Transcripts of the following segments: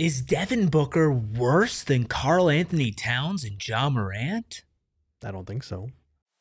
Is Devin Booker worse than Karl Anthony Towns and Ja Morant? I don't think so.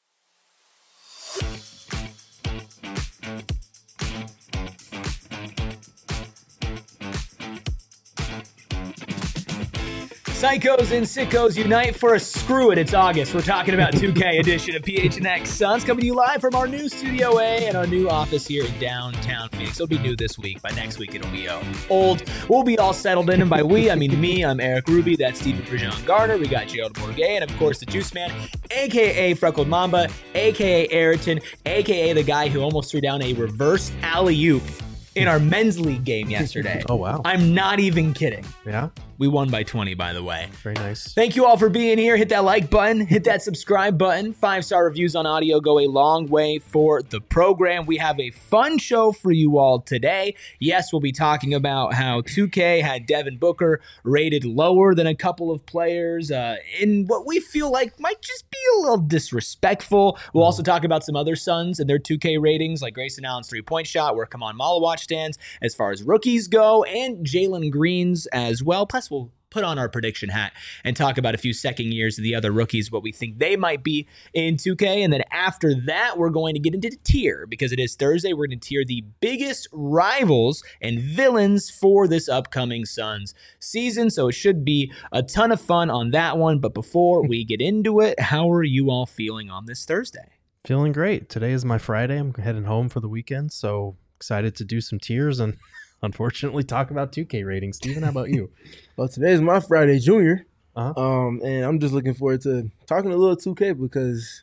Psychos and sickos unite for a screw it. It's August. We're talking about 2K edition of PHNX Suns, coming to you live from our new Studio A and our new office here in downtown Phoenix. It'll be new this week. By next week, it'll be old. We'll be all settled in, and by we, I mean me. I'm Eric Ruby. That's Stephen Prejean Garner. We got Gerald Bourget, and of course, the Juice Man, a.k.a. Freckled Mamba, a.k.a. Ayrton, a.k.a. the guy who almost threw down a reverse alley-oop in our men's league game yesterday. Oh, wow. I'm not even kidding. Yeah? We won by 20, by the way. Very nice. Thank you all for being here. Hit that like button. Hit that subscribe button. 5-star reviews on audio go a long way for the program. We have a fun show for you all today. Yes, we'll be talking about how 2K had Devin Booker rated lower than a couple of players in what we feel like might just be a little disrespectful. We'll also talk about some other Suns and their 2K ratings, like Grayson Allen's three-point shot, where Kaman Malawatch stands as far as rookies go, and Jalen Green's as well. Plus, we'll put on our prediction hat and talk about a few second years of the other rookies, what we think they might be in 2K. And then after that, we're going to get into the tier, because it is Thursday. We're going to tier the biggest rivals and villains for this upcoming Suns season. So it should be a ton of fun on that one. But before we get into it, how are you all feeling on this Thursday? Feeling great. Today is my Friday. I'm heading home for the weekend, so excited to do some tiers and unfortunately talk about 2K ratings. Steven, how about you? Well, today's my Friday Junior, Uh-huh. and I'm just looking forward to talking a little 2K because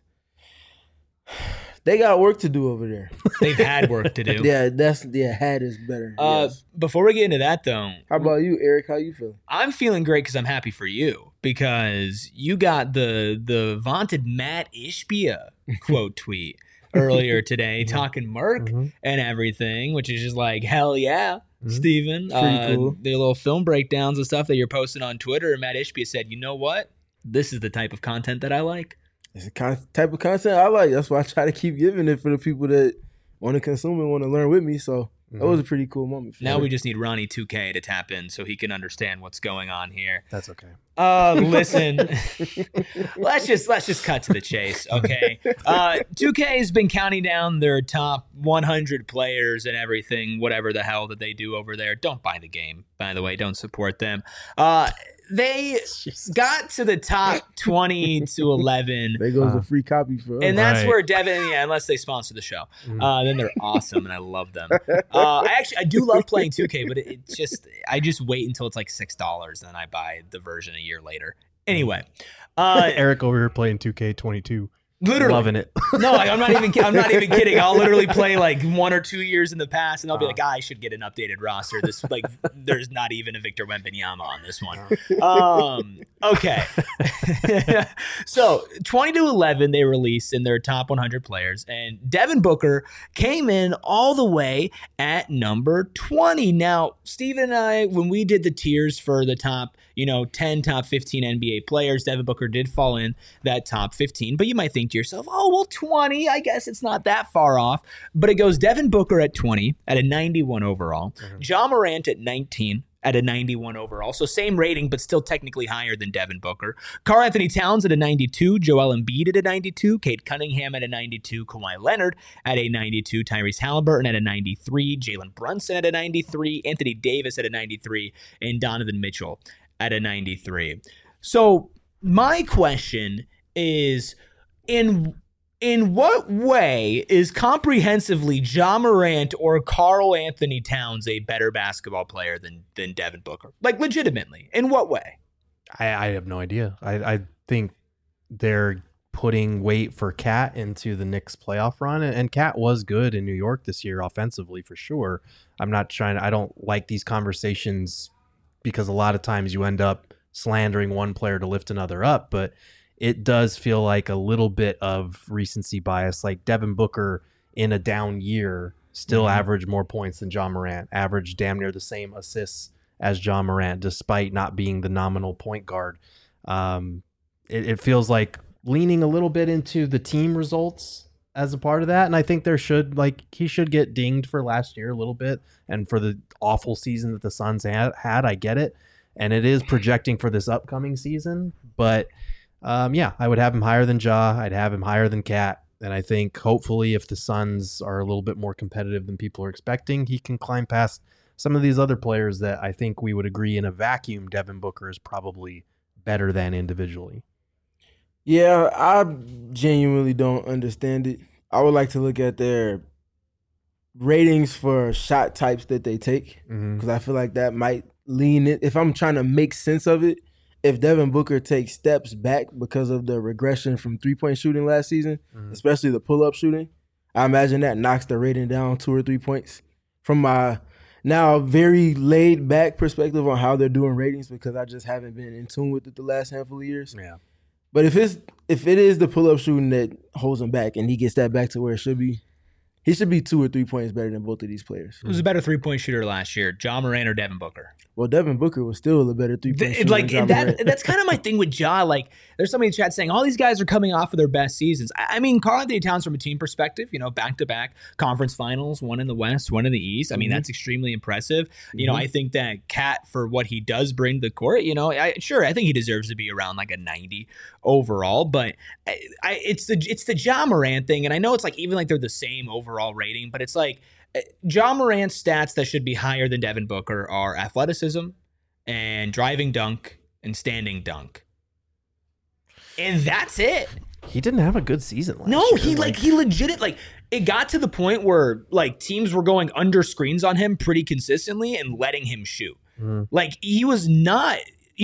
they got work to do over there. They've had work to do. Had is better. Yes. Before we get into that, though, How about you, Eric? How you feel? I'm feeling great because I'm happy for you, because you got the vaunted Matt Ishbia quote tweet earlier today talking Merc and everything, which is just like, hell yeah, Steven. Pretty cool. The little film breakdowns and stuff that you're posting on Twitter, and Matt Ishbia said, you know what? This is the type of content that I like. It's the type of content I like. That's why I try to keep giving it for the people that want to consume and want to learn with me. So that was a pretty cool moment. Now we just need Ronnie 2K to tap in so he can understand what's going on here. That's okay. Listen, let's just cut to the chase, okay? 2K has been counting down their top 100 players and everything, whatever the hell that they do over there. Don't buy the game, by the way. Don't support them. They got to the top 20 to 11. There goes a free copy for us. And that's Right. where Devin, unless they sponsor the show, then they're awesome and I love them. I do love playing 2K, but I just wait until it's like $6 and then I buy the version a year later. Anyway, Eric over here playing 2K22. literally Loving it. No, I'm not even kidding. I'll literally play like 1 or 2 years in the past, and I'll be like, I should get an updated roster. This there's not even a Victor Wembanyama on this one. Okay. So 20 to 11 they released in their top 100 players, and Devin Booker came in all the way at number 20. Now, Steven and I, when we did the tiers for the top 10, top 15 NBA players, Devin Booker did fall in that top 15. But you might think to yourself, oh, well, 20, I guess it's not that far off. But it goes Devin Booker at 20 at a 91 overall, Ja Morant at 19 at a 91 overall. So same rating, but still technically higher than Devin Booker. Karl Anthony Towns at a 92, Joel Embiid at a 92, Cade Cunningham at a 92, Kawhi Leonard at a 92, Tyrese Halliburton at a 93, Jalen Brunson at a 93, Anthony Davis at a 93, and Donovan Mitchell at a 93. So my question is, in what way is comprehensively Ja Morant or Karl Anthony Towns a better basketball player than Devin Booker? Like, legitimately, in what way? I have no idea. I think they're putting weight for Cat into the Knicks playoff run, and Cat was good in New York this year offensively for sure. I don't like these conversations because a lot of times you end up slandering one player to lift another up, but it does feel like a little bit of recency bias. Like Devin Booker in a down year still averaged more points than Ja Morant, averaged damn near the same assists as Ja Morant, despite not being the nominal point guard. It feels like leaning a little bit into the team results as a part of that. And I think he should get dinged for last year a little bit and for the awful season that the Suns had. I get it. and it is projecting for this upcoming season. But yeah, I would have him higher than Ja. I'd have him higher than Cat. And I think hopefully if the Suns are a little bit more competitive than people are expecting, he can climb past some of these other players that I think we would agree in a vacuum Devin Booker is probably better than individually. Yeah, I genuinely don't understand it. I would like to look at their ratings for shot types that they take, because I feel like that might lean it. If I'm trying to make sense of it, if Devin Booker takes steps back because of the regression from three-point shooting last season, especially the pull-up shooting, I imagine that knocks the rating down 2 or 3 points. From my now very laid-back perspective on how they're doing ratings, because I just haven't been in tune with it the last handful of years. Yeah. But if it is the pull-up shooting that holds him back and he gets that back to where it should be, he should be 2 or 3 points better than both of these players. Who was a better three-point shooter last year, Ja Morant or Devin Booker? Well, Devin Booker was still a better three-point shooter than Ja Morant. That's kind of my thing with Ja. Like, there's somebody in the chat saying all these guys are coming off of their best seasons. I mean, Karl-Anthony Towns from a team perspective, back-to-back conference finals, one in the West, one in the East. I mean, that's extremely impressive. I think that Cat, for what he does bring to the court, I think he deserves to be around like a 90 overall. But it's the Ja Morant thing, and I know it's like even like they're the same overall rating, but it's like Ja Morant's stats that should be higher than Devin Booker are athleticism and driving dunk and standing dunk. And that's it. He didn't have a good season last he year. he legit it got to the point where like teams were going under screens on him pretty consistently and letting him shoot. Like he was not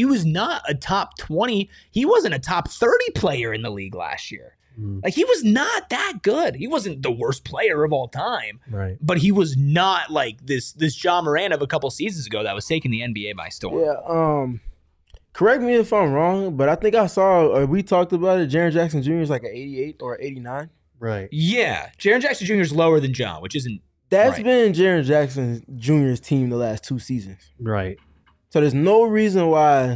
a top 20. He wasn't a top 30 player in the league last year. Like he was not that good. He wasn't the worst player of all time. Right. But he was not like this Ja Morant of a couple seasons ago that was taking the NBA by storm. Yeah, correct me if I'm wrong, but I think I saw, we talked about it, Jaren Jackson Jr. is like an 88 or 89. Right. Yeah. Jaren Jackson Jr. is lower than Ja, which isn't That's right. been Jaren Jackson Jr.'s team the last 2 seasons. Right. So there's no reason why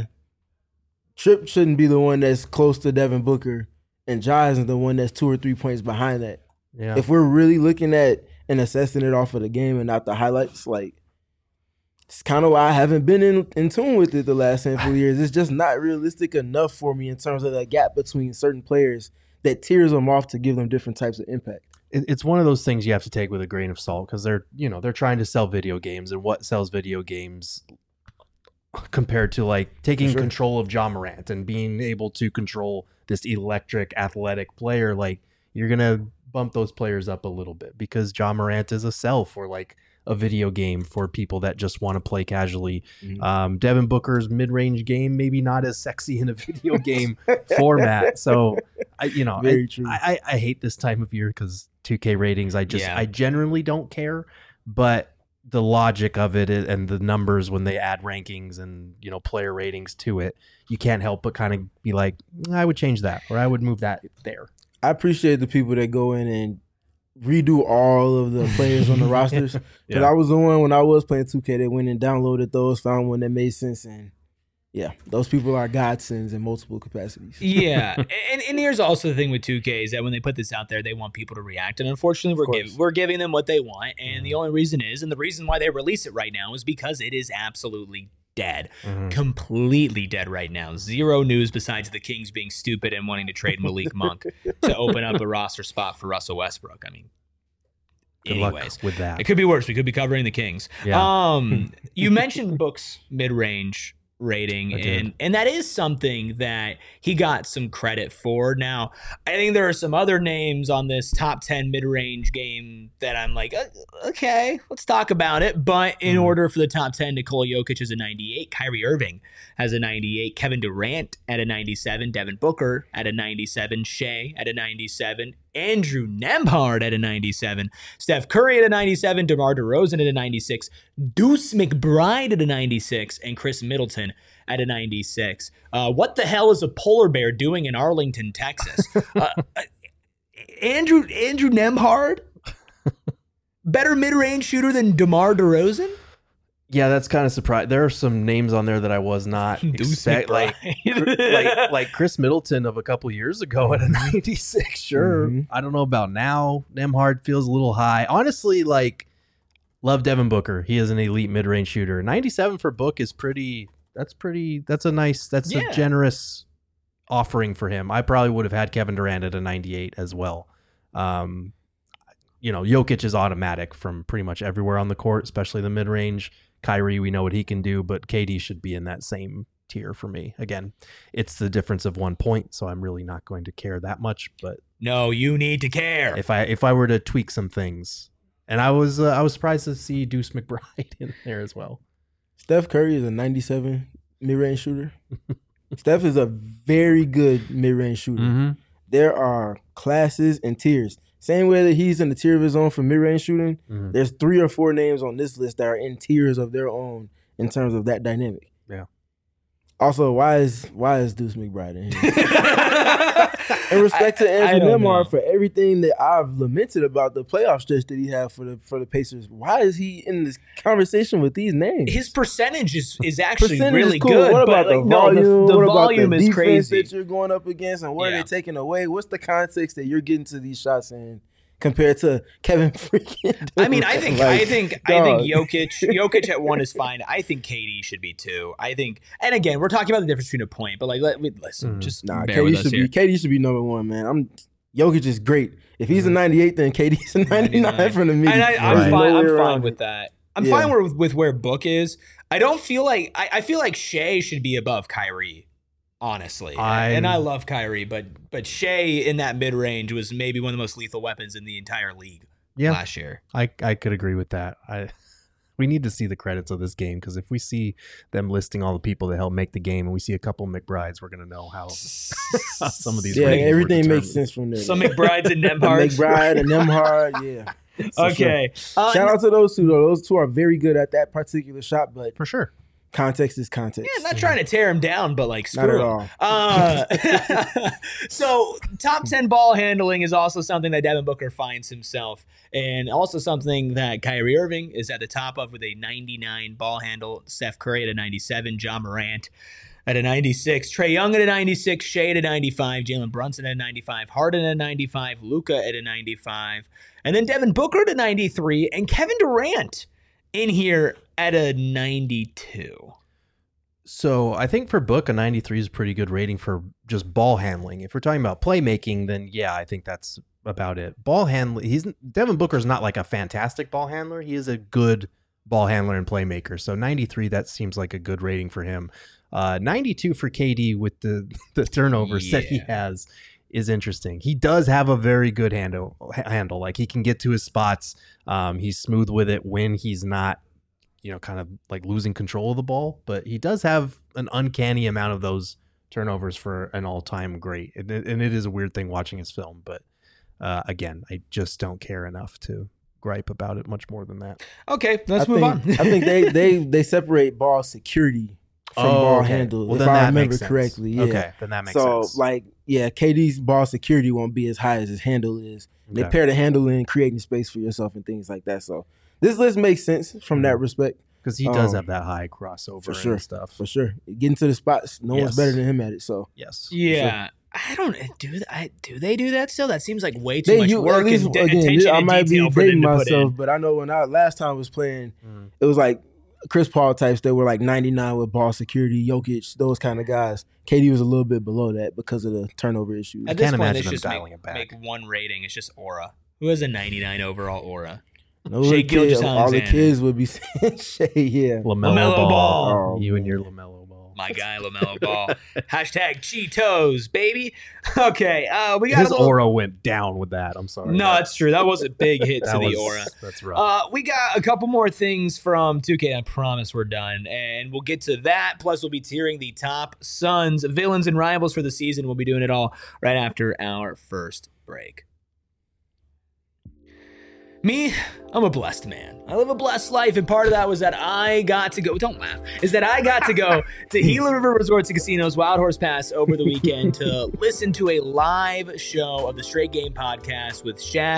Tripp shouldn't be the one that's close to Devin Booker and Ja isn't the one that's 2 or 3 points behind that. Yeah. If we're really looking at and assessing it off of the game and not the highlights, like, it's kind of why I haven't been in tune with it the last handful of years. It's just not realistic enough for me in terms of the gap between certain players that tears them off to give them different types of impact. It's one of those things you have to take with a grain of salt, because they're trying to sell video games, and what sells video games compared to like taking control of Ja Morant and being able to control this electric athletic player. Like, you're gonna bump those players up a little bit because Ja Morant is a sell for like a video game for people that just want to play casually. Devin Booker's mid-range game maybe not as sexy in a video game format. So I hate this time of year because 2K ratings, I generally don't care, but the logic of it and the numbers when they add rankings and player ratings to it, you can't help but kind of be like, I would change that, or I would move that there. I appreciate the people that go in and redo all of the players on the rosters. Because I was the one when I was playing 2K that went and downloaded those, found one that made sense, and yeah, those people are godsends in multiple capacities. Yeah, and here's also the thing with 2K is that when they put this out there, they want people to react, and unfortunately, we're giving them what they want, and the only reason and the reason why they release it right now is because it is absolutely dead, completely dead right now. Zero news besides the Kings being stupid and wanting to trade Malik Monk to open up a roster spot for Russell Westbrook. I mean, Good anyways, luck with that. It could be worse. We could be covering the Kings. Yeah. You mentioned Book's mid-range rating, and that is something that he got some credit for. Now, I think there are some other names on this top 10 mid-range game that I'm like, okay, let's talk about it. But in order for the top 10, Nikola Jokic is a 98, Kyrie Irving has a 98, Kevin Durant at a 97, Devin Booker at a 97, Shea at a 97, Andrew Nembhard at a 97, Steph Curry at a 97, DeMar DeRozan at a 96, Deuce McBride at a 96, and Chris Middleton at a 96. What the hell is a polar bear doing in Arlington, Texas? Andrew Nembhard? Better mid-range shooter than DeMar DeRozan? Yeah, that's kind of surprising. There are some names on there that I was not expecting, like Chris Middleton of a couple years ago at a 96. Sure, I don't know about now. Nembhard feels a little high. Honestly, like, love Devin Booker. He is an elite mid-range shooter. 97 for Book is pretty a generous offering for him. I probably would have had Kevin Durant at a 98 as well. Jokic is automatic from pretty much everywhere on the court, especially the mid-range. Kyrie, we know what he can do, but KD should be in that same tier for me. Again, it's the difference of 1 point, so I'm really not going to care that much. But no, you need to care. If I were to tweak some things, and I was surprised to see Deuce McBride in there as well. Steph Curry is a 97 mid-range shooter. Steph is a very good mid-range shooter. Mm-hmm. There are classes and tiers. Same way that he's in the tier of his own for mid-range shooting, there's 3 or 4 names on this list that are in tiers of their own in terms of that dynamic. Yeah. Also, why is Deuce McBride in here? In respect to Andrew Nembhard, for everything that I've lamented about the playoff stretch that he had for the Pacers, why is he in this conversation with these names? His percentage is actually really cool. good. What about the volume? The what volume about the is defense crazy that you're going up against, and what are they taking away? What's the context that you're getting to these shots in compared to Kevin freaking Durant? I mean, I think Jokic at 1 is fine. I think KD should be 2. I think, and again, we're talking about the difference between a point, but listen, just bear with us here. KD should be number 1, man. Jokic is great. If he's a 98, then KD's a 99 from the media. And I'm fine with that. I'm fine with where Book is. I don't feel like I feel like Shea should be above Kyrie. Honestly, and I love Kyrie, but Shea in that mid range was maybe one of the most lethal weapons in the entire league last year. I could agree with that. We need to see the credits of this game, because if we see them listing all the people that helped make the game and we see a couple McBrides, we're gonna know how some of these. Everything makes sense from there. Some McBrides and Nembhards. McBride and Nembhard, yeah. Okay. Sure. Shout out to those two though. Those two are very good at that particular shot, but for sure. Context is context. Yeah, not trying to tear him down, but screw him. Not at all. So top 10 ball handling is also something that Devin Booker finds himself, and also something that Kyrie Irving is at the top of with a 99 ball handle, Steph Curry at a 97, Ja Morant at a 96, Trae Young at a 96, Shea at a 95, Jalen Brunson at a 95, Harden at a 95, Luka at a 95, and then Devin Booker at a 93, and Kevin Durant in here at a 92. So I think for Book, a 93 is a pretty good rating for just ball handling. If we're talking about playmaking, then yeah, I think that's about it. Ball handling, Devin Booker's not like a fantastic ball handler. He is a good ball handler and playmaker. So 93, that seems like a good rating for him. 92 for KD with the turnovers that he has is interesting. He does have a very good handle. Like, he can get to his spots. He's smooth with it when he's not, kind of like losing control of the ball, but he does have an uncanny amount of those turnovers for an all-time great. And it is a weird thing watching his film, but again, I just don't care enough to gripe about it much more than that. Okay, let's move on. I think they separate ball security from ball handle, well, if I remember correctly. Yeah. Okay, then that makes sense. So, KD's ball security won't be as high as his handle is. They pair the handle in creating space for yourself and things like that. So this list makes sense from that respect. Because he does have that high crossover and stuff. For sure. Getting to the spots, no one's better than him at it. So yes. Yeah. Sure. I don't do they do that still? That seems like way too much work and attention I might and detail be for them dating to put myself, in. but I know when I last time was playing, it was like Chris Paul types that were like 99 with ball security, Jokic, those kind of guys. KD was a little bit below that because of the turnover issues. At this point, it's just make one rating. It's just aura. Who has a 99 overall aura? Shea Gilgeous-Alexander. All the kids would be saying Shea, yeah. LaMelo Ball. You and your LaMelo Ball. My guy, LaMelo Ball. Hashtag Cheetos, baby. Okay, we got his aura went down with that. I'm sorry. No, that's true. That was a big hit to the aura. That's rough. We got a couple more things from 2K. I promise we're done, and we'll get to that. Plus, we'll be tiering the top Suns, villains, and rivals for the season. We'll be doing it all right after our first break. Me, I'm a blessed man. I live a blessed life, and part of that was that I got to go, don't laugh, is that I got to go to Gila River Resorts and Casinos Wild Horse Pass over the weekend to listen to a live show of the Straight Game podcast with Shaq,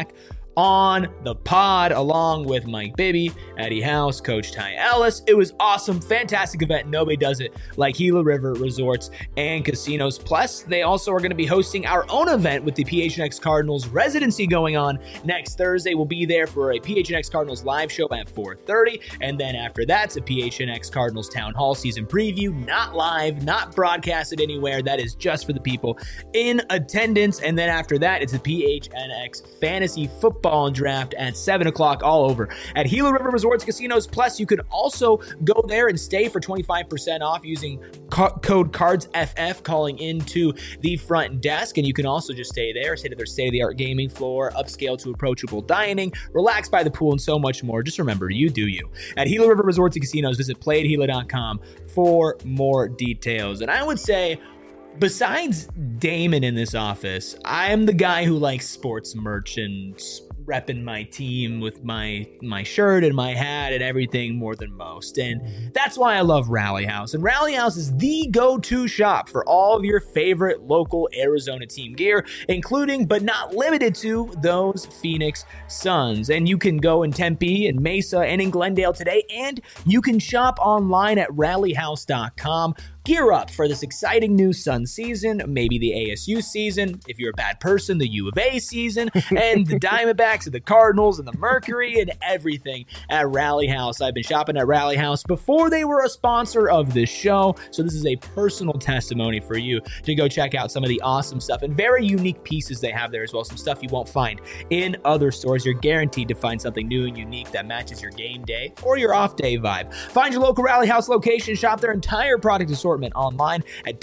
on the pod, along with Mike Bibby, Eddie House, Coach Ty Ellis. It was awesome, fantastic event. Nobody does it like Gila River Resorts and Casinos. Plus, they also are going to be hosting our own event with the PHNX Cardinals residency going on next Thursday. We'll be there for a PHNX Cardinals live show at 4:30, and then after that's a PHNX Cardinals Town Hall season preview, not live, not broadcasted anywhere. That is just for the people in attendance. And then after that, it's a PHNX Fantasy Football Draft at 7 o'clock all over at Gila River Resorts Casinos. Plus, you can also go there and stay for 25% off using code CARDSFF, calling into the front desk. And you can also just stay there, sit at their state-of-the-art gaming floor, upscale to approachable dining, relax by the pool, and so much more. Just remember, you do you. At Gila River Resorts and Casinos, visit playatgila.com for more details. And I would say, besides Damon in this office, I am the guy who likes sports merch and repping my team with my shirt and my hat and everything more than most. And that's why I love Rally House. And Rally House is the go-to shop for all of your favorite local Arizona team gear, including but not limited to those Phoenix Suns. And you can go in Tempe and Mesa and in Glendale today, and you can shop online at rallyhouse.com. Gear up for this exciting new Sun season, maybe the ASU season, if you're a bad person, the U of A season, and the Diamondbacks and the Cardinals and the Mercury and everything at Rally House. I've been shopping at Rally House before they were a sponsor of this show, so this is a personal testimony for you to go check out some of the awesome stuff and very unique pieces they have there as well, some stuff you won't find in other stores. You're guaranteed to find something new and unique that matches your game day or your off day vibe. Find your local Rally House location, shop their entire product assortment online at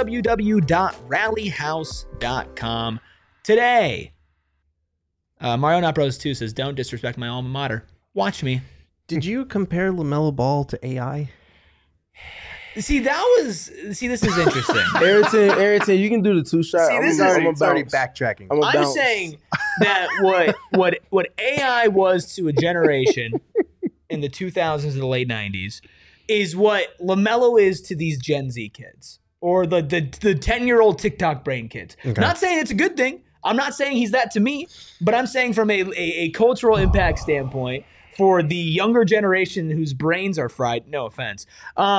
www.rallyhouse.com today. Mario Not Bros 2 says, don't disrespect my alma mater. Watch me. Did you compare LaMelo Ball to AI? See, this is interesting. Ayrton, you can do the 2 shot. See, this It's already backtracking. I'm saying that what AI was to a generation in the 2000s and the late 90s is what LaMelo is to these Gen Z kids or the 10-year-old TikTok brain kids. Okay. Not saying it's a good thing. I'm not saying he's that to me, but I'm saying from a cultural impact standpoint for the younger generation whose brains are fried, no offense,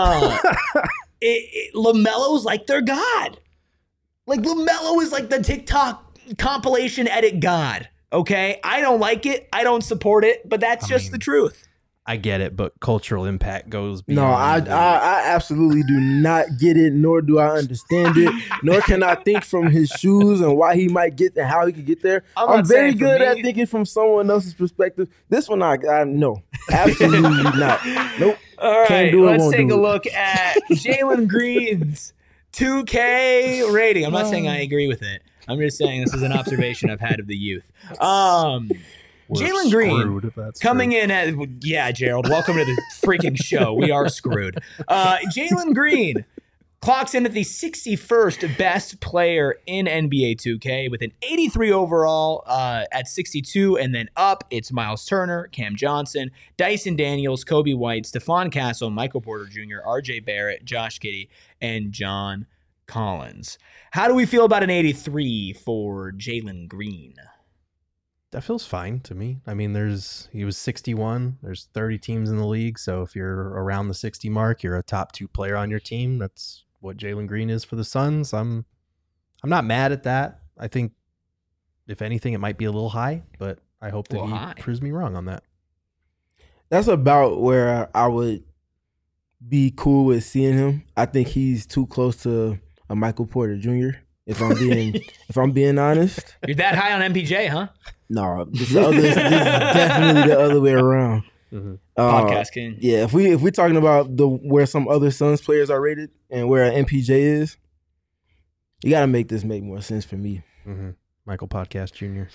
LaMelo's like their god. Like LaMelo is like the TikTok compilation edit god, okay? I don't like it. I don't support it, but that's just the truth. I get it, but cultural impact goes No, beyond. I absolutely do not get it, nor do I understand it, nor can I think from his shoes and why he might get there, how he could get there. I'm very good at thinking from someone else's perspective. This one, I no, absolutely not. Nope. All right, Can't do it, let's won't take do a it. look at Jalen Green's 2K rating. I'm not saying I agree with it. I'm just saying this is an observation I've had of the youth. Jalen Green coming in at, yeah, Gerald, welcome to the freaking show. We are screwed. Jalen Green clocks in at the 61st best player in NBA 2K with an 83 overall at 62, and then up, it's Miles Turner, Cam Johnson, Dyson Daniels, Kobe White, Stephon Castle, Michael Porter Jr., RJ Barrett, Josh Giddey, and John Collins. How do we feel about an 83 for Jalen Green? That feels fine to me. I mean, he was 61. There's 30 teams in the league, so if you're around the 60 mark, you're a top 2 player on your team. That's what Jalen Green is for the Suns. I'm not mad at that. I think, if anything, it might be a little high, but I hope that he proves me wrong on that. That's about where I would be cool with seeing him. I think he's too close to a Michael Porter Jr. If I'm being honest. You're that high on MPJ, huh? No, this is definitely the other way around. Mm-hmm. Podcast king. Yeah, if we're talking about where some other Suns players are rated and where MPJ is, you got to make this make more sense for me. Mm-hmm. Michael Podcast Jr.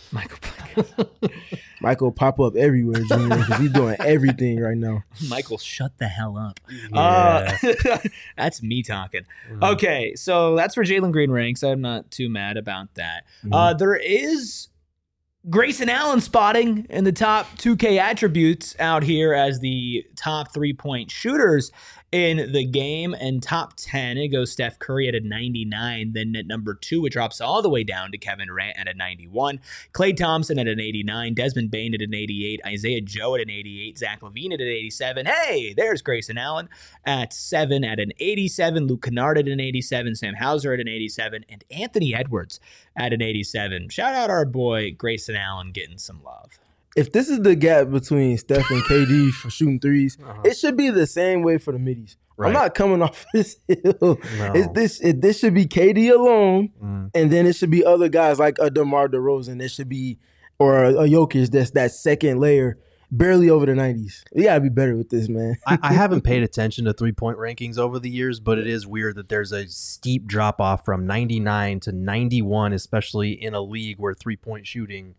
Michael pop up everywhere, Jr. because he's doing everything right now. Michael, shut the hell up. Yeah. That's me talking. Mm-hmm. Okay, so that's where Jalen Green ranks. I'm not too mad about that. Mhm. There is Grayson Allen spotting in the top 2K attributes out here as the top 3-point shooters in the game. And top 10, it goes Steph Curry at a 99. Then at number 2, it drops all the way down to Kevin Durant at a 91. Klay Thompson at an 89. Desmond Bane at an 88. Isaiah Joe at an 88. Zach LaVine at an 87. Hey, there's Grayson Allen at 7 at an 87. Luke Kennard at an 87. Sam Hauser at an 87. And Anthony Edwards at an 87. Shout out our boy Grayson Allen getting some love. If this is the gap between Steph and KD for shooting threes, it should be the same way for the middies. Right. I'm not coming off this hill. No. This should be KD alone, and then it should be other guys like a DeMar DeRozan. It should be, or a Jokic that's that second layer, barely over the 90s. We got to be better with this, man. I haven't paid attention to three-point rankings over the years, but it is weird that there's a steep drop-off from 99 to 91, especially in a league where three-point shooting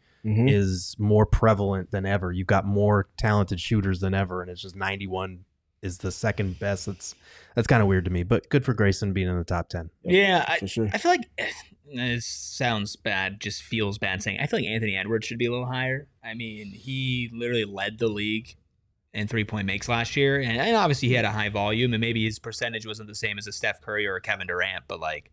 is more prevalent than ever. You've got more talented shooters than ever, and it's just 91 is the second best. That's kind of weird to me, but good for Grayson being in the top 10. Yeah, for sure. I feel like this sounds bad, just feels bad saying. I feel like Anthony Edwards should be a little higher. I mean, he literally led the league in three-point makes last year, and obviously he had a high volume, and maybe his percentage wasn't the same as a Steph Curry or a Kevin Durant, but like,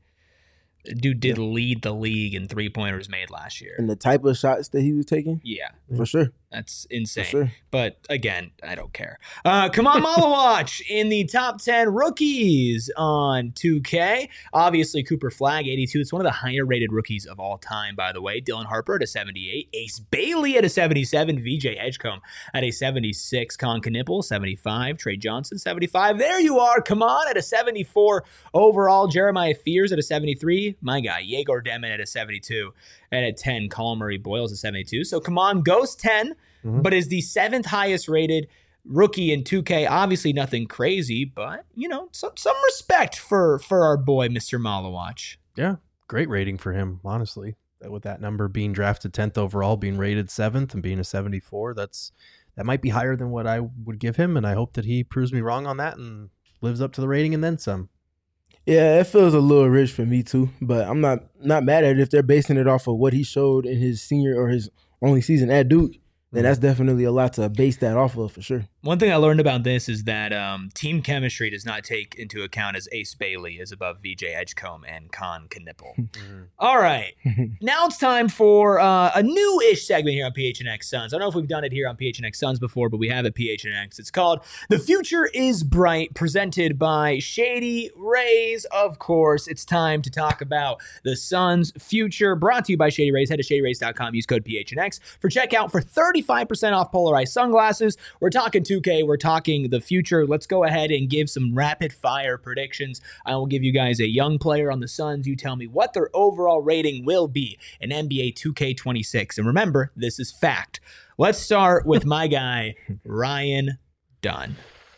dude did lead the league in three-pointers made last year. And the type of shots that he was taking? Yeah. For sure. That's insane. For sure. But again, I don't care. Come on, Malawatch in the top 10 rookies on 2K. Obviously, Cooper Flagg, 82. It's one of the higher rated rookies of all time, by the way. Dylan Harper at a 78. Ace Bailey at a 77. VJ Edgecombe at a 76. Con Knipple, 75. Trey Johnson, 75. There you are. Come on, at a 74 overall. Jeremiah Fears at a 73. My guy, Yegor Demin at a 72. And at 10, Colin Murray Boyles at 72. So come on, goes 10, but is the 7th highest rated rookie in 2K. Obviously nothing crazy, but, you know, some respect for our boy, Mr. Malawatch. Yeah, great rating for him, honestly. With that number being drafted 10th overall, being rated 7th, and being a 74, that might be higher than what I would give him, and I hope that he proves me wrong on that and lives up to the rating and then some. Yeah, it feels a little rich for me too, but I'm not mad at it if they're basing it off of what he showed in his senior or his only season at Duke. Then that's definitely a lot to base that off of for sure. One thing I learned about this is that team chemistry does not take into account as Ace Bailey is above VJ Edgecombe and Con Knipple. All right. Now it's time for a new-ish segment here on PHNX Suns. I don't know if we've done it here on PHNX Suns before, but we have at PHNX. It's called The Future is Bright, presented by Shady Rays. Of course, it's time to talk about the Suns' future, brought to you by Shady Rays. Head to shadyrays.com. Use code PHNX for checkout for 35% off polarized sunglasses. We're talking 2K. We're talking the future. Let's go ahead and give some rapid fire predictions. I will give you guys a young player on the Suns. You tell me what their overall rating will be in NBA 2K26. And remember, this is fact. Let's start with my guy, Ryan Dunn.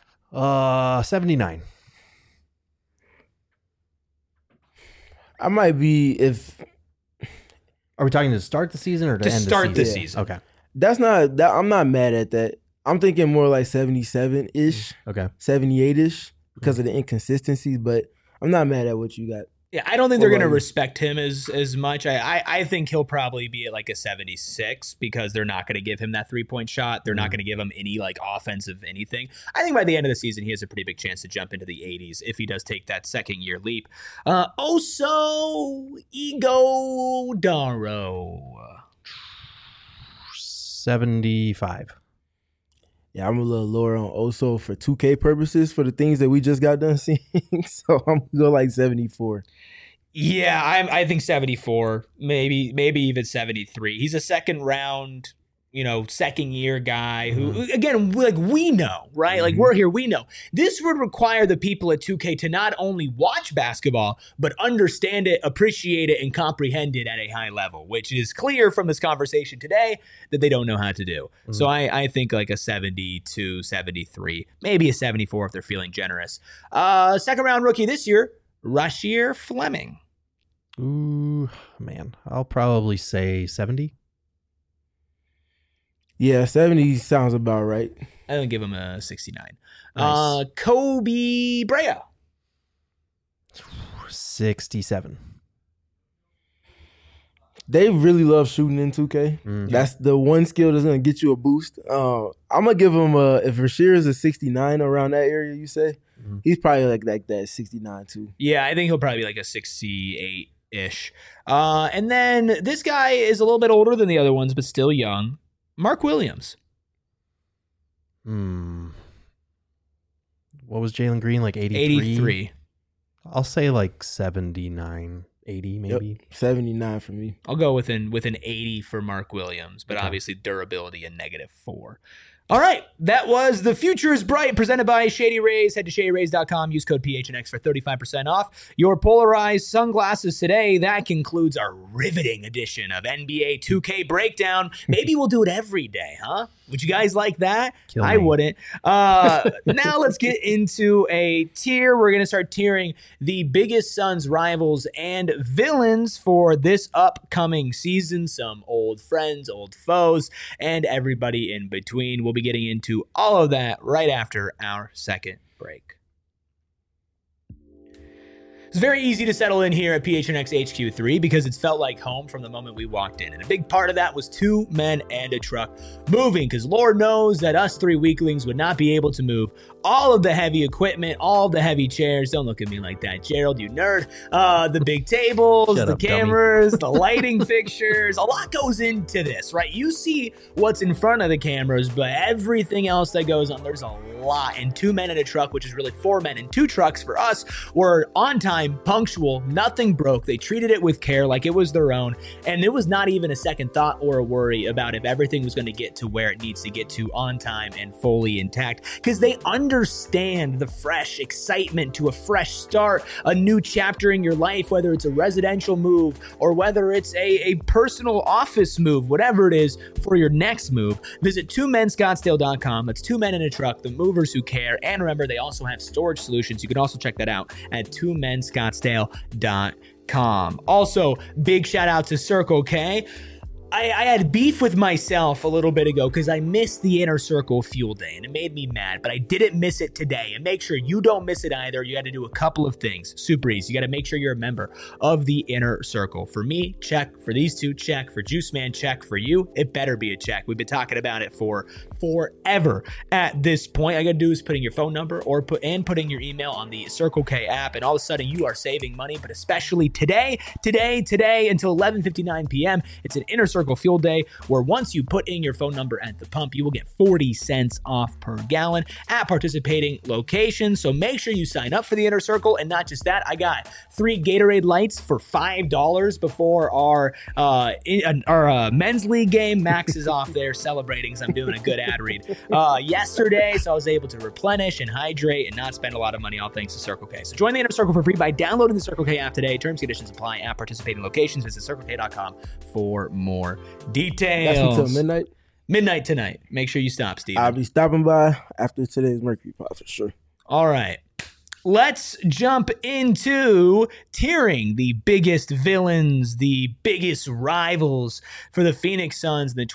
79. I might be Are we talking to start the season or to end start the the season? Okay. I'm not mad at that. I'm thinking more like 77-ish. Okay. 78-ish because of the inconsistencies, but I'm not mad at what you got. Yeah, I don't think they're going to respect him as much. I think he'll probably be at like a 76 because they're not going to give him that three-point shot. They're not going to give him any like offensive anything. I think by the end of the season, he has a pretty big chance to jump into the 80s if he does take that second-year leap. Oso Ighodaro. 75. Yeah, I'm a little lower on Oso for 2K purposes for the things that we just got done seeing. So I'm going to go like 74. Yeah, I think 74, maybe even 73. He's a second round, second year guy who, again, like we know, right? Like we're here, we know. This would require the people at 2K to not only watch basketball, but understand it, appreciate it, and comprehend it at a high level, which is clear from this conversation today that they don't know how to do. So I think like a 72, 73, maybe a 74 if they're feeling generous. Second round rookie this year, Rasheer Fleming. Ooh, man. I'll probably say 70. Yeah, 70 sounds about right. I'm going to give him a 69. Nice. Kobe Brea. 67. They really love shooting in 2K. That's the one skill that's going to get you a boost. I'm going to give him if Rasheer is a 69 around that area, you say, He's probably like that 69 too. Yeah, I think he'll probably be like a 68-ish. And then this guy is a little bit older than the other ones, but still young. Mark Williams. What was Jalen Green, like 83? 83. I'll say like 79, 80 maybe. Yep, 79 for me. I'll go with an 80 for Mark Williams, but obviously durability and -4. All right, that was The Future is Bright, presented by Shady Rays. Head to shadyrays.com, use code PHNX for 35% off your polarized sunglasses today. That concludes our riveting edition of NBA 2K Breakdown. Maybe we'll do it every day, huh? Would you guys like that? I wouldn't. Now let's get into a tier. We're going to start tiering the biggest Suns rivals and villains for this upcoming season. Some old friends, old foes, and everybody in between. We'll be getting into all of that right after our second break. It's very easy to settle in here at PHNX HQ3 because it's felt like home from the moment we walked in. And a big part of that was 2 men and a truck moving, because Lord knows that us 3 weaklings would not be able to move all of the heavy equipment, all of the heavy chairs. Don't look at me like that, Gerald, you nerd. The big tables, the cameras, the lighting fixtures. A lot goes into this, right? You see what's in front of the cameras, but everything else that goes on, there's a lot. And 2 men in a truck, which is really 4 men in 2 trucks for us, were on time, punctual, nothing broke. They treated it with care like it was their own, and it was not even a second thought or a worry about if everything was going to get to where it needs to get to on time and fully intact, because they understand the fresh excitement to a fresh start, a new chapter in your life, whether it's a residential move or whether it's a personal office move, whatever it is for your next move. Visit 2menscottsdale.com. That's 2 men in a truck, the movers who care. And remember, they also have storage solutions. You can also check that out at 2menscottsdale.com. Also, big shout out to Circle K. I had beef with myself a little bit ago because I missed the Inner Circle Fuel Day, and it made me mad, but I didn't miss it today. And make sure you don't miss it either. You got to do a couple of things. Super easy. You got to make sure you're a member of the Inner Circle. For me, check. For these two, check. For Juice Man, check. For you, it better be a check. We've been talking about it for forever at this point. All you got to do is put in your phone number or putting your email on the Circle K app, and all of a sudden you are saving money. But especially today until 11:59 p.m., it's an Inner Circle Fuel Day, where once you put in your phone number at the pump, you will get 40 cents off per gallon at participating locations. So make sure you sign up for the Inner Circle. And not just that, I got 3 Gatorade Lights for $5 before our men's league game. Max is off there celebrating, so I'm doing a good ad read yesterday, so I was able to replenish and hydrate and not spend a lot of money, all thanks to Circle K. So join the Inner Circle for free by downloading the Circle K app today. Terms and conditions apply at participating locations. Visit circlek.com for more details. That's until midnight? Midnight tonight. Make sure you stop, Steve. I'll be stopping by after today's Mercury Pod for sure. All right. Let's jump into tiering the biggest villains, the biggest rivals for the Phoenix Suns in the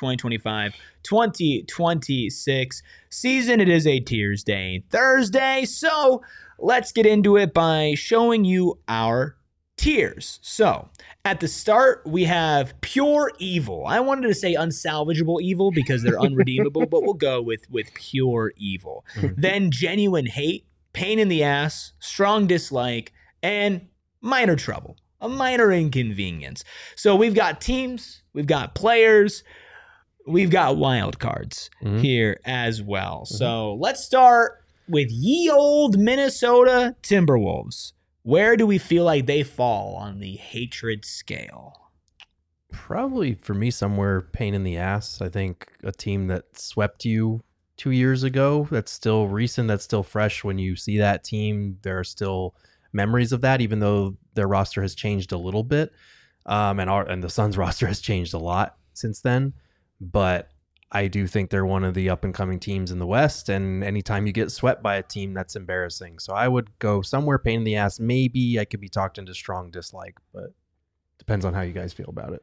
2025-2026 season. It is a Tiers Day Thursday, so let's get into it by showing you our tiers. So at the start, we have pure evil. I wanted to say unsalvageable evil because they're unredeemable, but we'll go with pure evil. Then genuine hate, pain in the ass, strong dislike, and minor trouble, a minor inconvenience. So we've got teams, we've got players, we've got wild cards here as well. So let's start with ye old Minnesota Timberwolves. Where do we feel like they fall on the hatred scale? Probably for me, somewhere pain in the ass. I think a team that swept you 2 years ago, that's still recent, that's still fresh. When you see that team, there are still memories of that, even though their roster has changed a little bit. And the Suns roster has changed a lot since then. But I do think they're one of the up-and-coming teams in the West, and anytime you get swept by a team, that's embarrassing. So I would go somewhere pain in the ass. Maybe I could be talked into strong dislike, but depends on how you guys feel about it.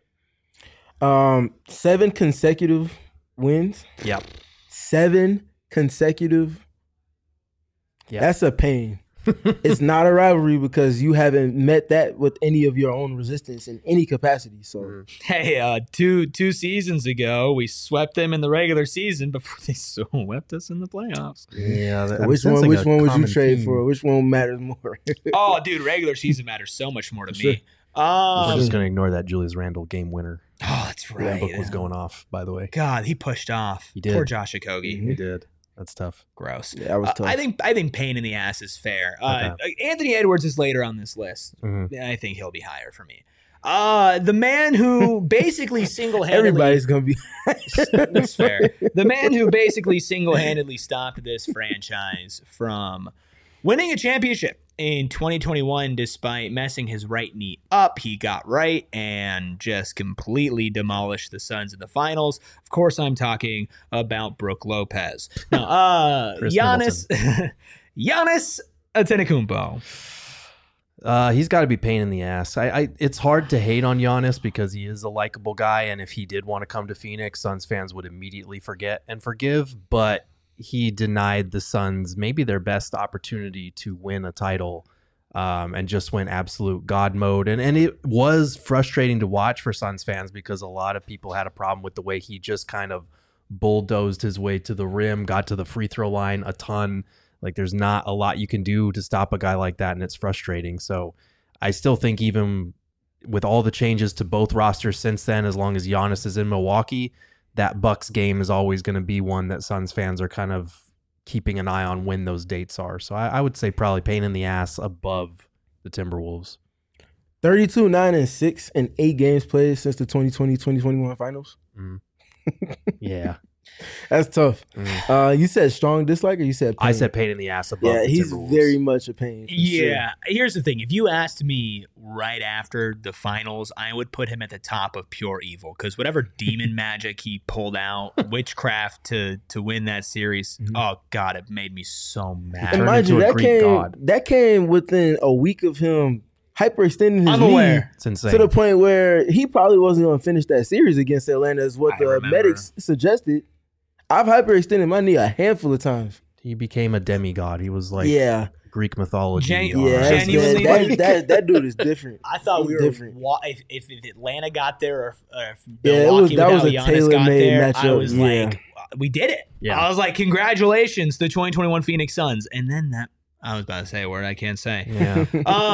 7 consecutive wins. Yep. 7 consecutive. Yeah. That's a pain. It's not a rivalry because you haven't met that with any of your own resistance in any capacity. So Hey, two seasons ago, we swept them in the regular season before they swept us in the playoffs. Yeah. which one would you trade for? Which one matters more? Oh, dude, regular season matters so much more to Sure. me. We're just gonna ignore that Julius Randle game winner. Oh, that's right. Book was going off, by the way. God, he pushed off. He did. Poor Josh Okogie. He did. That's tough. Gross. Yeah, that was tough. I think pain in the ass is fair. Okay. Anthony Edwards is later on this list. Mhm. I think he'll be higher for me. The man who basically single-handedly Everybody's gonna be. That's fair. The man who basically single-handedly stopped this franchise from winning a championship in 2021 despite messing his right knee up. He got right and just completely demolished the Suns in the finals. Of course, I'm talking about Brook Lopez. Now, Chris Giannis Antetokounmpo. He's got to be pain in the ass. It's hard to hate on Giannis because he is a likable guy, and if he did want to come to Phoenix, Suns fans would immediately forget and forgive. But he denied the Suns maybe their best opportunity to win a title, and just went absolute God mode. And it was frustrating to watch for Suns fans because a lot of people had a problem with the way he just kind of bulldozed his way to the rim, got to the free throw line a ton. Like, there's not a lot you can do to stop a guy like that, and it's frustrating. So I still think even with all the changes to both rosters since then, as long as Giannis is in Milwaukee, that Bucks game is always going to be one that Suns fans are kind of keeping an eye on when those dates are. So I would say probably pain in the ass above the Timberwolves. 32, 9-6 in 8 games played since the 2020-2021 finals. Yeah. That's tough. You said strong dislike, or you said pain? I said pain in the ass above the he's Timberwolves. very much a pain. Yeah. Here's the thing. If you asked me right after the finals, I would put him at the top of pure evil because whatever demon magic he pulled out, witchcraft to win that series, oh, God, it made me so mad. And mind you, into a Greek god. that came within a week of him hyperextending his I'm knee aware. It's insane. to the point where he probably wasn't going to finish that series against Atlanta, is what I the remember. medics suggested. I've hyperextended my knee a handful of times. He became a demigod. He was like Yeah, Greek mythology. Genuinely, that dude is different. I thought He's we were different. if Atlanta got there or if Yeah, Milwaukee that was without a Giannis got tailor-made there, I matchup, was yeah. like, we did it. Yeah. I was like, congratulations, the 2021 Phoenix Suns. And then I was about to say a word I can't say. Yeah.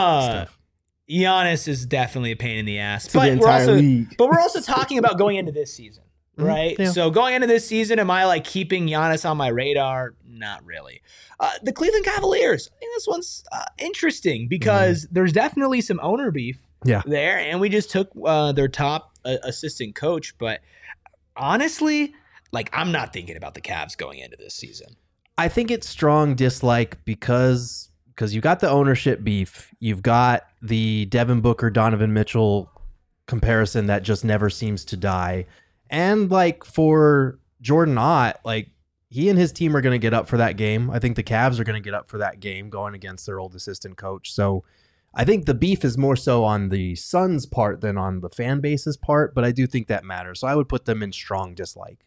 Giannis is definitely a pain in the ass. To the entire league. But we're also talking about going into this season, right? Yeah. So going into this season, am I like keeping Giannis on my radar? Not really. The Cleveland Cavaliers. I think this one's interesting because there's definitely some owner beef there, and we just took their top assistant coach. But honestly, like, I'm not thinking about the Cavs going into this season. I think it's strong dislike because you got the ownership beef. You've got the Devin Booker, Donovan Mitchell comparison that just never seems to die. And like for Jordan Ott, like he and his team are going to get up for that game. I think the Cavs are going to get up for that game going against their old assistant coach. So I think the beef is more so on the Suns' part than on the fan base's part, but I do think that matters. So I would put them in strong dislike.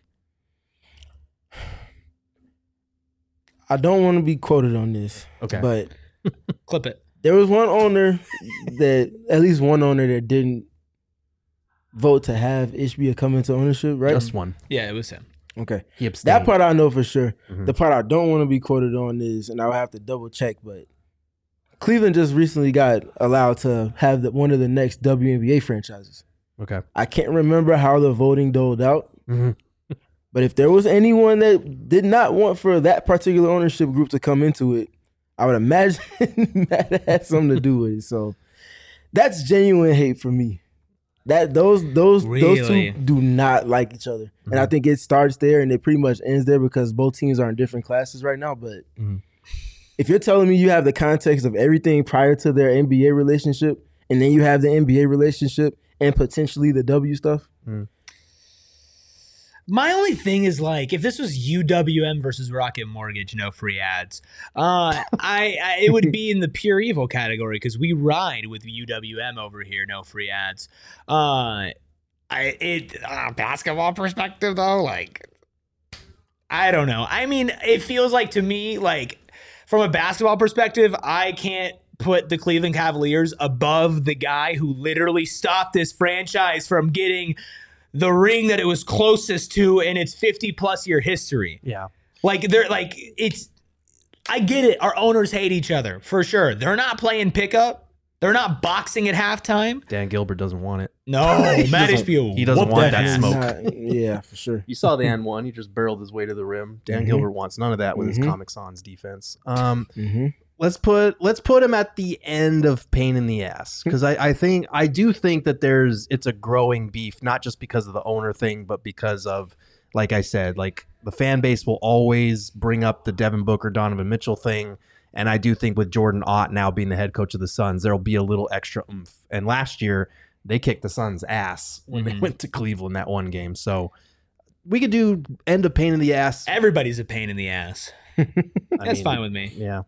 I don't want to be quoted on this, Okay. but Clip it. there was one owner at least one owner that didn't vote to have Ishbia come into ownership, right? Just one. Yeah, it was him. Okay. He abstained. That part I know for sure. Mhm. The part I don't want to be quoted on is, and I'll have to double check, but Cleveland just recently got allowed to have one of the next WNBA franchises. Okay. I can't remember how the voting doled out, Mhm. but if there was anyone that did not want for that particular ownership group to come into it, I would imagine that had something to do with it. So that's genuine hate for me. That those two Really? do not like each other, and I think it starts there and it pretty much ends there because both teams are in different classes right now. But if you're telling me you have the context of everything prior to their NBA relationship, and then you have the NBA relationship and potentially the W stuff, My only thing is, like, if this was UWM versus Rocket Mortgage, no free ads, it would be in the pure evil category because we ride with UWM over here, no free ads. Basketball perspective though, like, I don't know. I mean, it feels like to me, like, from a basketball perspective, I can't put the Cleveland Cavaliers above the guy who literally stopped this franchise from getting the ring that it was closest to in its 50-plus year history. Yeah. Like, they're like, it's, I get it. Our owners hate each other, for sure. They're not playing pickup. They're not boxing at halftime. Dan Gilbert doesn't want it. No, Matt Ishbia. He doesn't want that smoke. Yeah, for sure. You saw the N1. He just barreled his way to the rim. Dan Gilbert wants none of that with his Comic Sans defense. Let's put him at the end of pain in the ass, because I do think that it's a growing beef, not just because of the owner thing, but because of, like I said, like the fan base will always bring up the Devin Booker, Donovan Mitchell thing. And I do think with Jordan Ott now being the head coach of the Suns, there'll be a little extra oomph. And last year, they kicked the Suns' ass when they went to Cleveland that one game. So we could do end of pain in the ass. Everybody's a pain in the ass. That's fine with me. Yeah.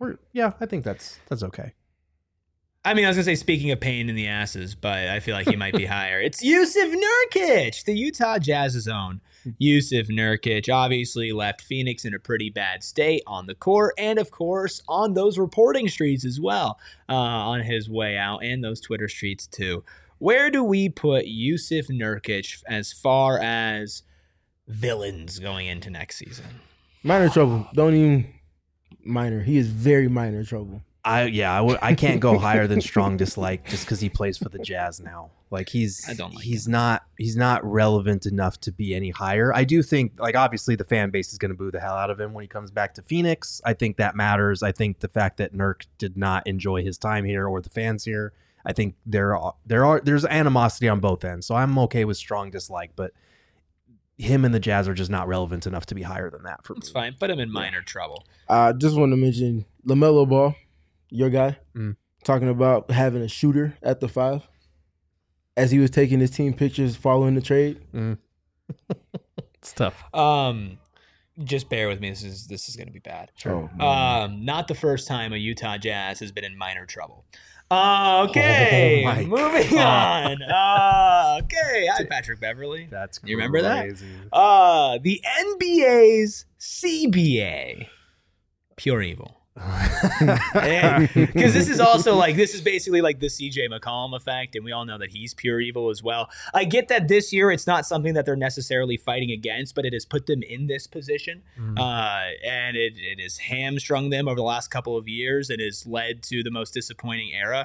I think that's okay. I mean, I was going to say, speaking of pain in the asses, but I feel like he might be higher. It's Jusuf Nurkic, the Utah Jazz's own. Jusuf Nurkic obviously left Phoenix in a pretty bad state on the court and, of course, on those reporting streets as well on his way out, and those Twitter streets too. Where do we put Jusuf Nurkic as far as villains going into next season? Minor trouble. Don't even minor. He is very minor trouble. I can't go higher than strong dislike just because he plays for the Jazz now. Like he's not relevant enough to be any higher. I do think, like, obviously the fan base is going to boo the hell out of him when he comes back to Phoenix. I think that matters. I think the fact that Nurk did not enjoy his time here or the fans here, I think there's animosity on both ends. So I'm okay with strong dislike, but him and the Jazz are just not relevant enough to be higher than that for me. It's fine. Put him in minor trouble. I just want to mention LaMelo Ball, your guy, talking about having a shooter at the 5 as he was taking his team pictures following the trade. It's tough. Just bear with me. This is going to be bad. Sure. Not the first time a Utah Jazz has been in minor trouble. Okay, moving on. Okay, hi Patrick Beverly. That's crazy. You remember that? The NBA's CBA, pure evil. Because this is also like, this is basically like the CJ McCollum effect, and we all know that he's pure evil as well. I get that this year it's not something that they're necessarily fighting against, but it has put them in this position, and it has hamstrung them over the last couple of years and has led to the most disappointing era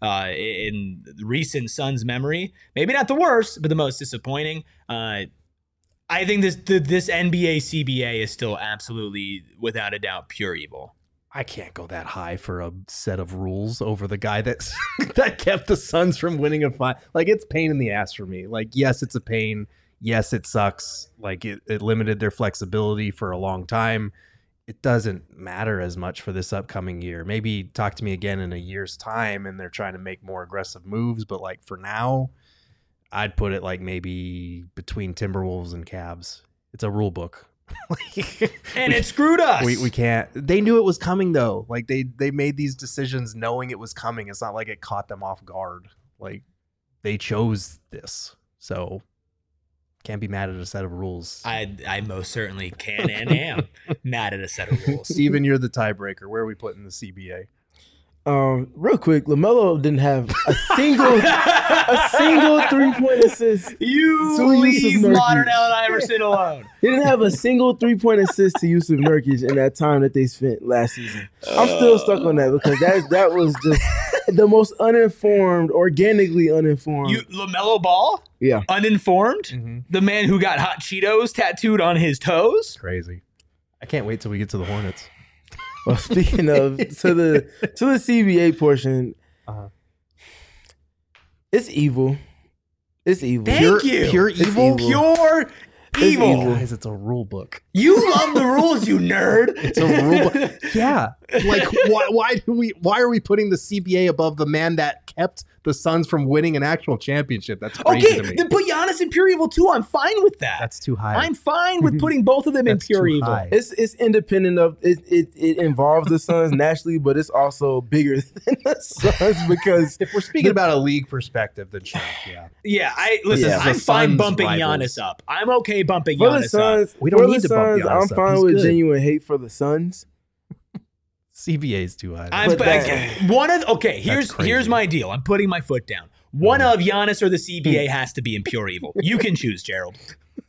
in recent Suns memory. Maybe not the worst, but the most disappointing. I think this NBA CBA is still absolutely, without a doubt, pure evil. I can't go that high for a set of rules over the guy that kept the Suns from winning a fight. Like, it's pain in the ass for me. Like, yes, it's a pain. Yes, it sucks. Like, it limited their flexibility for a long time. It doesn't matter as much for this upcoming year. Maybe talk to me again in a year's time and they're trying to make more aggressive moves. But like for now, I'd put it like maybe between Timberwolves and Cavs. It's a rule book. And it screwed us. We can't. They knew it was coming though. Like they made these decisions knowing it was coming. It's not like it caught them off guard. Like they chose this, so can't be mad at a set of rules. I most certainly can and am mad at a set of rules. Steven, you're the tiebreaker. Where are we putting the CBA? Real quick, LaMelo didn't have a single 3-point assist. You leave modern Allen Iverson alone. He didn't have a single 3-point assist to Jusuf Nurkic in that time that they spent last season. I'm still stuck on that because that was just the most uninformed, organically uninformed. LaMelo Ball? Yeah. Uninformed? Mm-hmm. The man who got hot Cheetos tattooed on his toes? Crazy. I can't wait till we get to the Hornets. Well, speaking of to the CBA portion, it's evil. It's evil. Thank you. Pure evil. Pure evil. Guys, it's a rule book. You love the rules, you nerd. It's a rule book. Yeah. Like why are we putting the CBA above the man that kept the Suns from winning an actual championship? That's crazy to me. Then put Giannis in pure evil too. I'm fine with that. That's too high. I'm fine with putting both of them in pure evil. High. It's independent of it involves the Suns naturally, but it's also bigger than the Suns because if we're speaking about a league perspective, then sure. Yeah. I'm fine bumping Giannis up. I'm okay bumping for Giannis the Suns, up. We don't need to bump Giannis I'm up. fine with genuine hate for the Suns. CBA is too high. Here's my deal. I'm putting my foot down. One of Giannis or the CBA has to be in pure evil. You can choose, Gerald.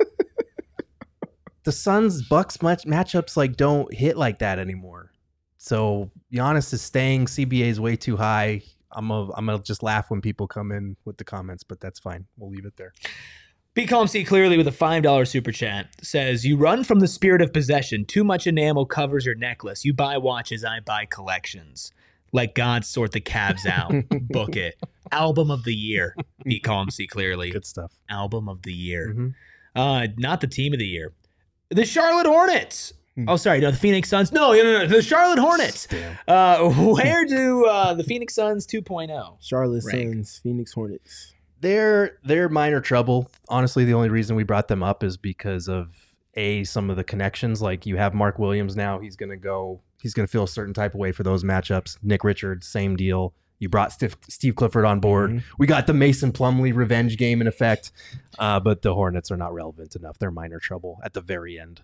The Suns Bucks matchups like don't hit like that anymore. So Giannis is staying. CBA is way too high. I'm gonna just laugh when people come in with the comments, but that's fine. We'll leave it there. Be Calm See Clearly with a $5 super chat says, you run from the spirit of possession. Too much enamel covers your necklace. You buy watches, I buy collections. Let God sort the calves out. Book it. Album of the year. Be Calm See Clearly. Good stuff. Album of the year. Mm-hmm. Not the team of the year. The Charlotte Hornets. Oh, sorry. No, the Phoenix Suns. No. The Charlotte Hornets. Where do the Phoenix Suns 2.0? Charlotte rank? Suns, Phoenix Hornets. They're minor trouble. Honestly, the only reason we brought them up is because of some of the connections. Like you have Mark Williams now. He's gonna feel a certain type of way for those matchups. Nick Richards, same deal. You brought Steve Clifford on board. Mm-hmm. We got the Mason Plumlee revenge game in effect. But the Hornets are not relevant enough. They're minor trouble at the very end.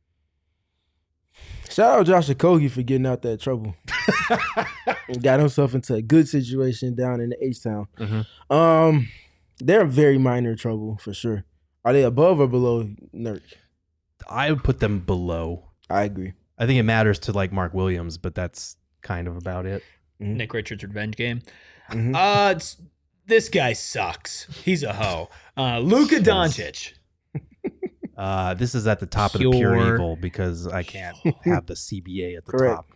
Shout out Josh Okogie for getting out that trouble. Got himself into a good situation down in the H-Town. Mm-hmm. They're very minor trouble for sure. Are they above or below Nurk? I would put them below. I agree. I think it matters to like Mark Williams, but that's kind of about it. Mm-hmm. Nick Richards revenge game. Mm-hmm. This guy sucks. He's a hoe. Luka Doncic. This is at the top of the pure evil because I can't have the CBA at the top.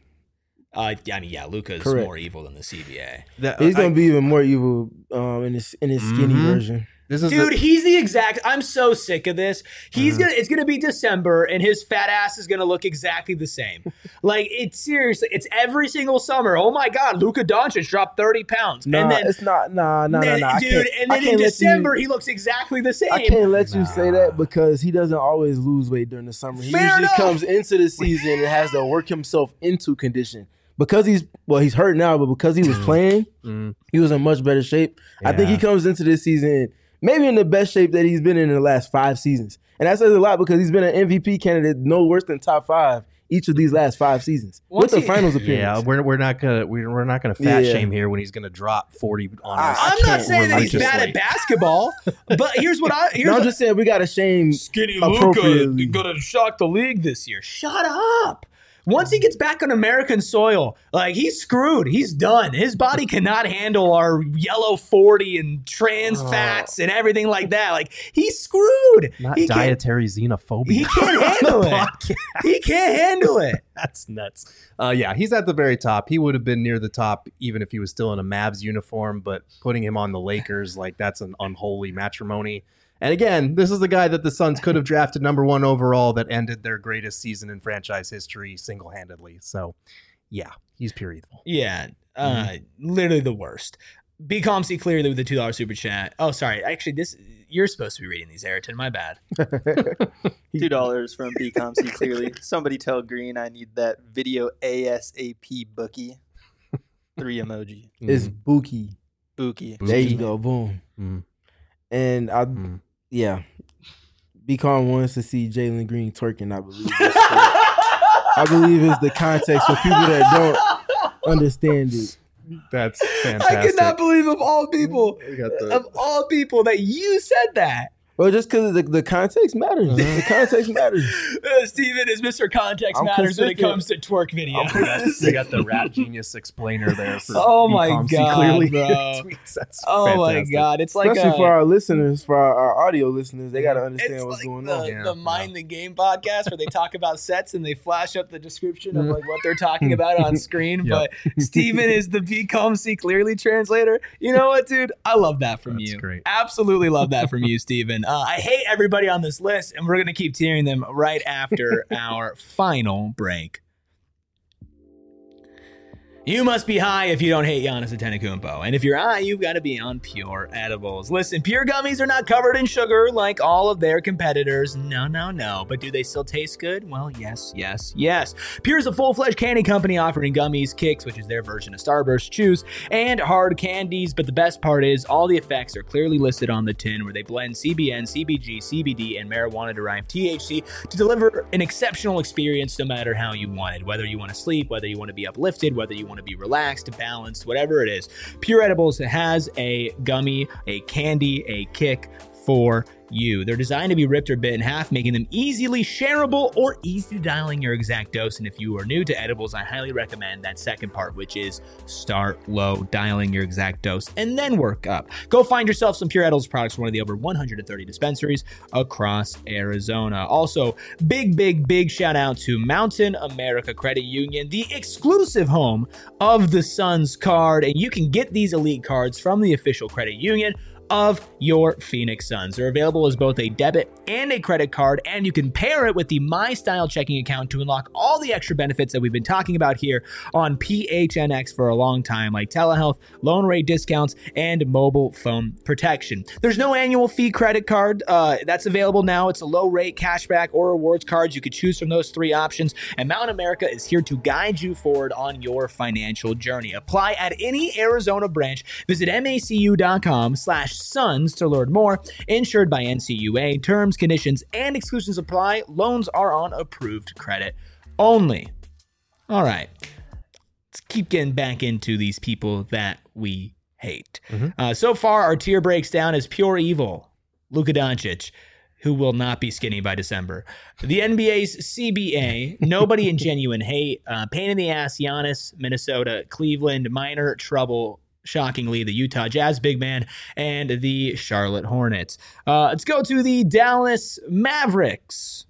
Luka's more evil than the CBA. He's going to be even more evil in his skinny version. He's the exact. I'm so sick of this. It's gonna be December, and his fat ass is gonna look exactly the same. Like it's seriously, it's every single summer. Oh my God, Luka Doncic dropped 30 pounds, and then it's not. Dude. And then in December, he looks exactly the same. I can't let you say that because he doesn't always lose weight during the summer. He usually comes into the season and has to work himself into condition. Because he's hurt now, but because he was playing, he was in much better shape. Yeah. I think he comes into this season maybe in the best shape that he's been in the last 5 seasons. And that says a lot because he's been an MVP candidate no worse than top 5 each of these last 5 seasons. With the finals appearance. Yeah, we're not gonna fat shame here when he's gonna drop 40 on us. I'm not saying that he's bad at basketball, but I'm just saying we gotta shame skinny Luka gonna shock the league this year. Shut up. Once he gets back on American soil, like he's screwed. He's done. His body cannot handle our yellow 40 and trans fats and everything like that. Like he's screwed. Not dietary xenophobia. He can't handle it. He can't handle it. That's nuts. He's at the very top. He would have been near the top even if he was still in a Mavs uniform, but putting him on the Lakers, like that's an unholy matrimony. And again, this is the guy that the Suns could have drafted number 1 overall that ended their greatest season in franchise history single-handedly. So, yeah, he's pure evil. Yeah, literally the worst. Be Calm, See Clearly with the $2 super chat. Oh, sorry. Actually, you're supposed to be reading these, Ayrton. My bad. $2 from Be Calm, See Clearly. Somebody tell Green I need that video ASAP bookie. 3 emoji. It's Bookie. Bookie. There you go. Boom. And Be Calm wants to see Jalen Green twerking, I believe. I believe it's the context for people that don't understand it. That's fantastic. I cannot believe of all people that you said that. Well, just because the context matters. The context matters. Steven is Mr. Context Matters when it comes to twerk videos. They got the rap genius explainer there. For oh my God, clearly. bro. Oh my God. It's like especially for our listeners, for our audio listeners, they got to understand what's going on. The Mind the Game podcast where they talk about sets and they flash up the description of like what they're talking about on screen. Yep. But Steven is the Be Calm, See Clearly translator. You know what, dude? I love that from you. Great. Absolutely love that from you, Steven. I hate everybody on this list, and we're going to keep tearing them right after our final break. You must be high if you don't hate Giannis Antetokounmpo. And if you're high, you've got to be on Pure Edibles. Listen, Pure gummies are not covered in sugar like all of their competitors. No. But do they still taste good? Well, yes. Pure is a full-fledged candy company offering gummies, kicks, which is their version of Starburst, chews, and hard candies. But the best part is all the effects are clearly listed on the tin, where they blend CBN, CBG, CBD, and marijuana-derived THC to deliver an exceptional experience no matter how you want it. Whether you want to sleep, whether you want to be uplifted, whether you want to be relaxed, balanced, whatever it is, Pure Edibles has a gummy, a candy, a kick for you. They're designed to be ripped or bit in half, making them easily shareable or easy dialing your exact dose. And if you are new to edibles, I highly recommend that second part, which is start low, dialing your exact dose, and then work up. Go find yourself some Pure Edibles products from one of the over 130 dispensaries across Arizona. Also, big shout out to Mountain America Credit Union, the exclusive home of the Suns card. And you can get these elite cards from the official credit union of your Phoenix Suns. They're available as both a debit and a credit card, and you can pair it with the My Style checking account to unlock all the extra benefits that we've been talking about here on PHNX for a long time, like telehealth, loan rate discounts, and mobile phone protection. There's no annual fee credit card that's available now. It's a low rate cashback or rewards cards. You could choose from those three options, and Mountain America is here to guide you forward on your financial journey. Apply at any Arizona branch. Visit macu.com/Suns to learn more. Insured by NCUA. Terms, conditions, and exclusions apply. Loans are on approved credit only. All right. Let's keep getting back into these people that we hate. So far, our tier breaks down as pure evil. Luka Doncic, who will not be skinny by December. The NBA's CBA, nobody in genuine hate. Pain in the ass, Giannis, Minnesota, Cleveland, minor trouble, shockingly, the Utah Jazz big man, and the Charlotte Hornets. Let's go to the Dallas Mavericks.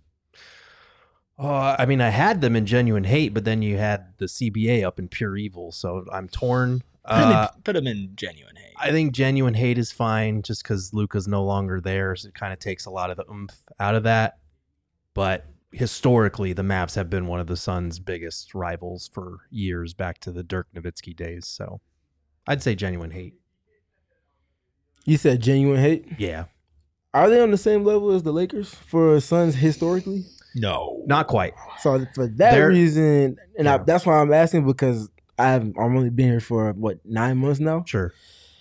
I mean, I had them in genuine hate, but then you had the CBA up in pure evil, so I'm torn. Put them in genuine hate. I think genuine hate is fine just because Luka's no longer there, so it kind of takes a lot of the oomph out of that. But historically, the Mavs have been one of the Suns' biggest rivals for years, back to the Dirk Nowitzki days, so I'd say genuine hate. You said genuine hate? Yeah. Are they on the same level as the Lakers for Suns historically? No. Not quite. So for that reason, and that's why I'm asking, because I'm only been here for, 9 months now? Sure.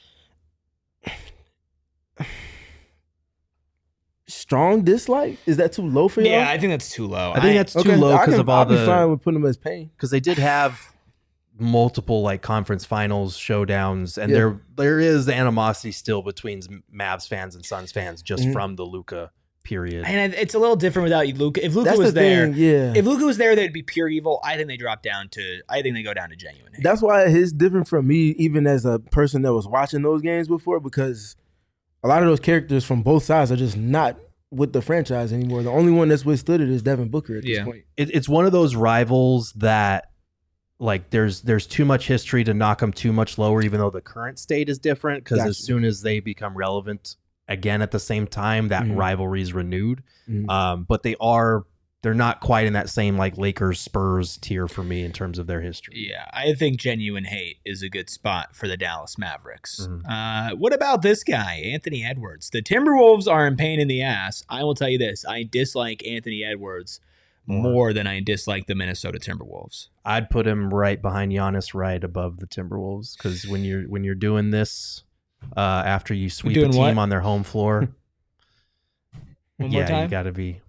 Strong dislike? Is that too low for you? Yeah, I think that's too low. I think that's too low because of all I'll be fine with putting them as pain. Because they did have multiple conference finals showdowns, and there is animosity still between Mavs fans and Suns fans just from the Luka period. And it's a little different without Luka. If Luka was there, if Luka was there, they'd be pure evil. I think they go down to genuine hate. That's why it's different from me, even as a person that was watching those games before, because a lot of those characters from both sides are just not with the franchise anymore. The only one that's withstood it is Devin Booker at this point. It's one of those rivals that, there's too much history to knock them too much lower, even though the current state is different, because as soon as they become relevant again at the same time, that rivalry is renewed. But they're not quite in that same Lakers Spurs tier for me in terms of their history. Yeah, I think genuine hate is a good spot for the Dallas Mavericks. What about this guy, Anthony Edwards? The Timberwolves are in pain in the ass. I will tell you this, I dislike Anthony Edwards more than I dislike the Minnesota Timberwolves. I'd put him right behind Giannis, right above the Timberwolves, because when you're doing this after you sweep a team on their home floor, One more time? You got to be.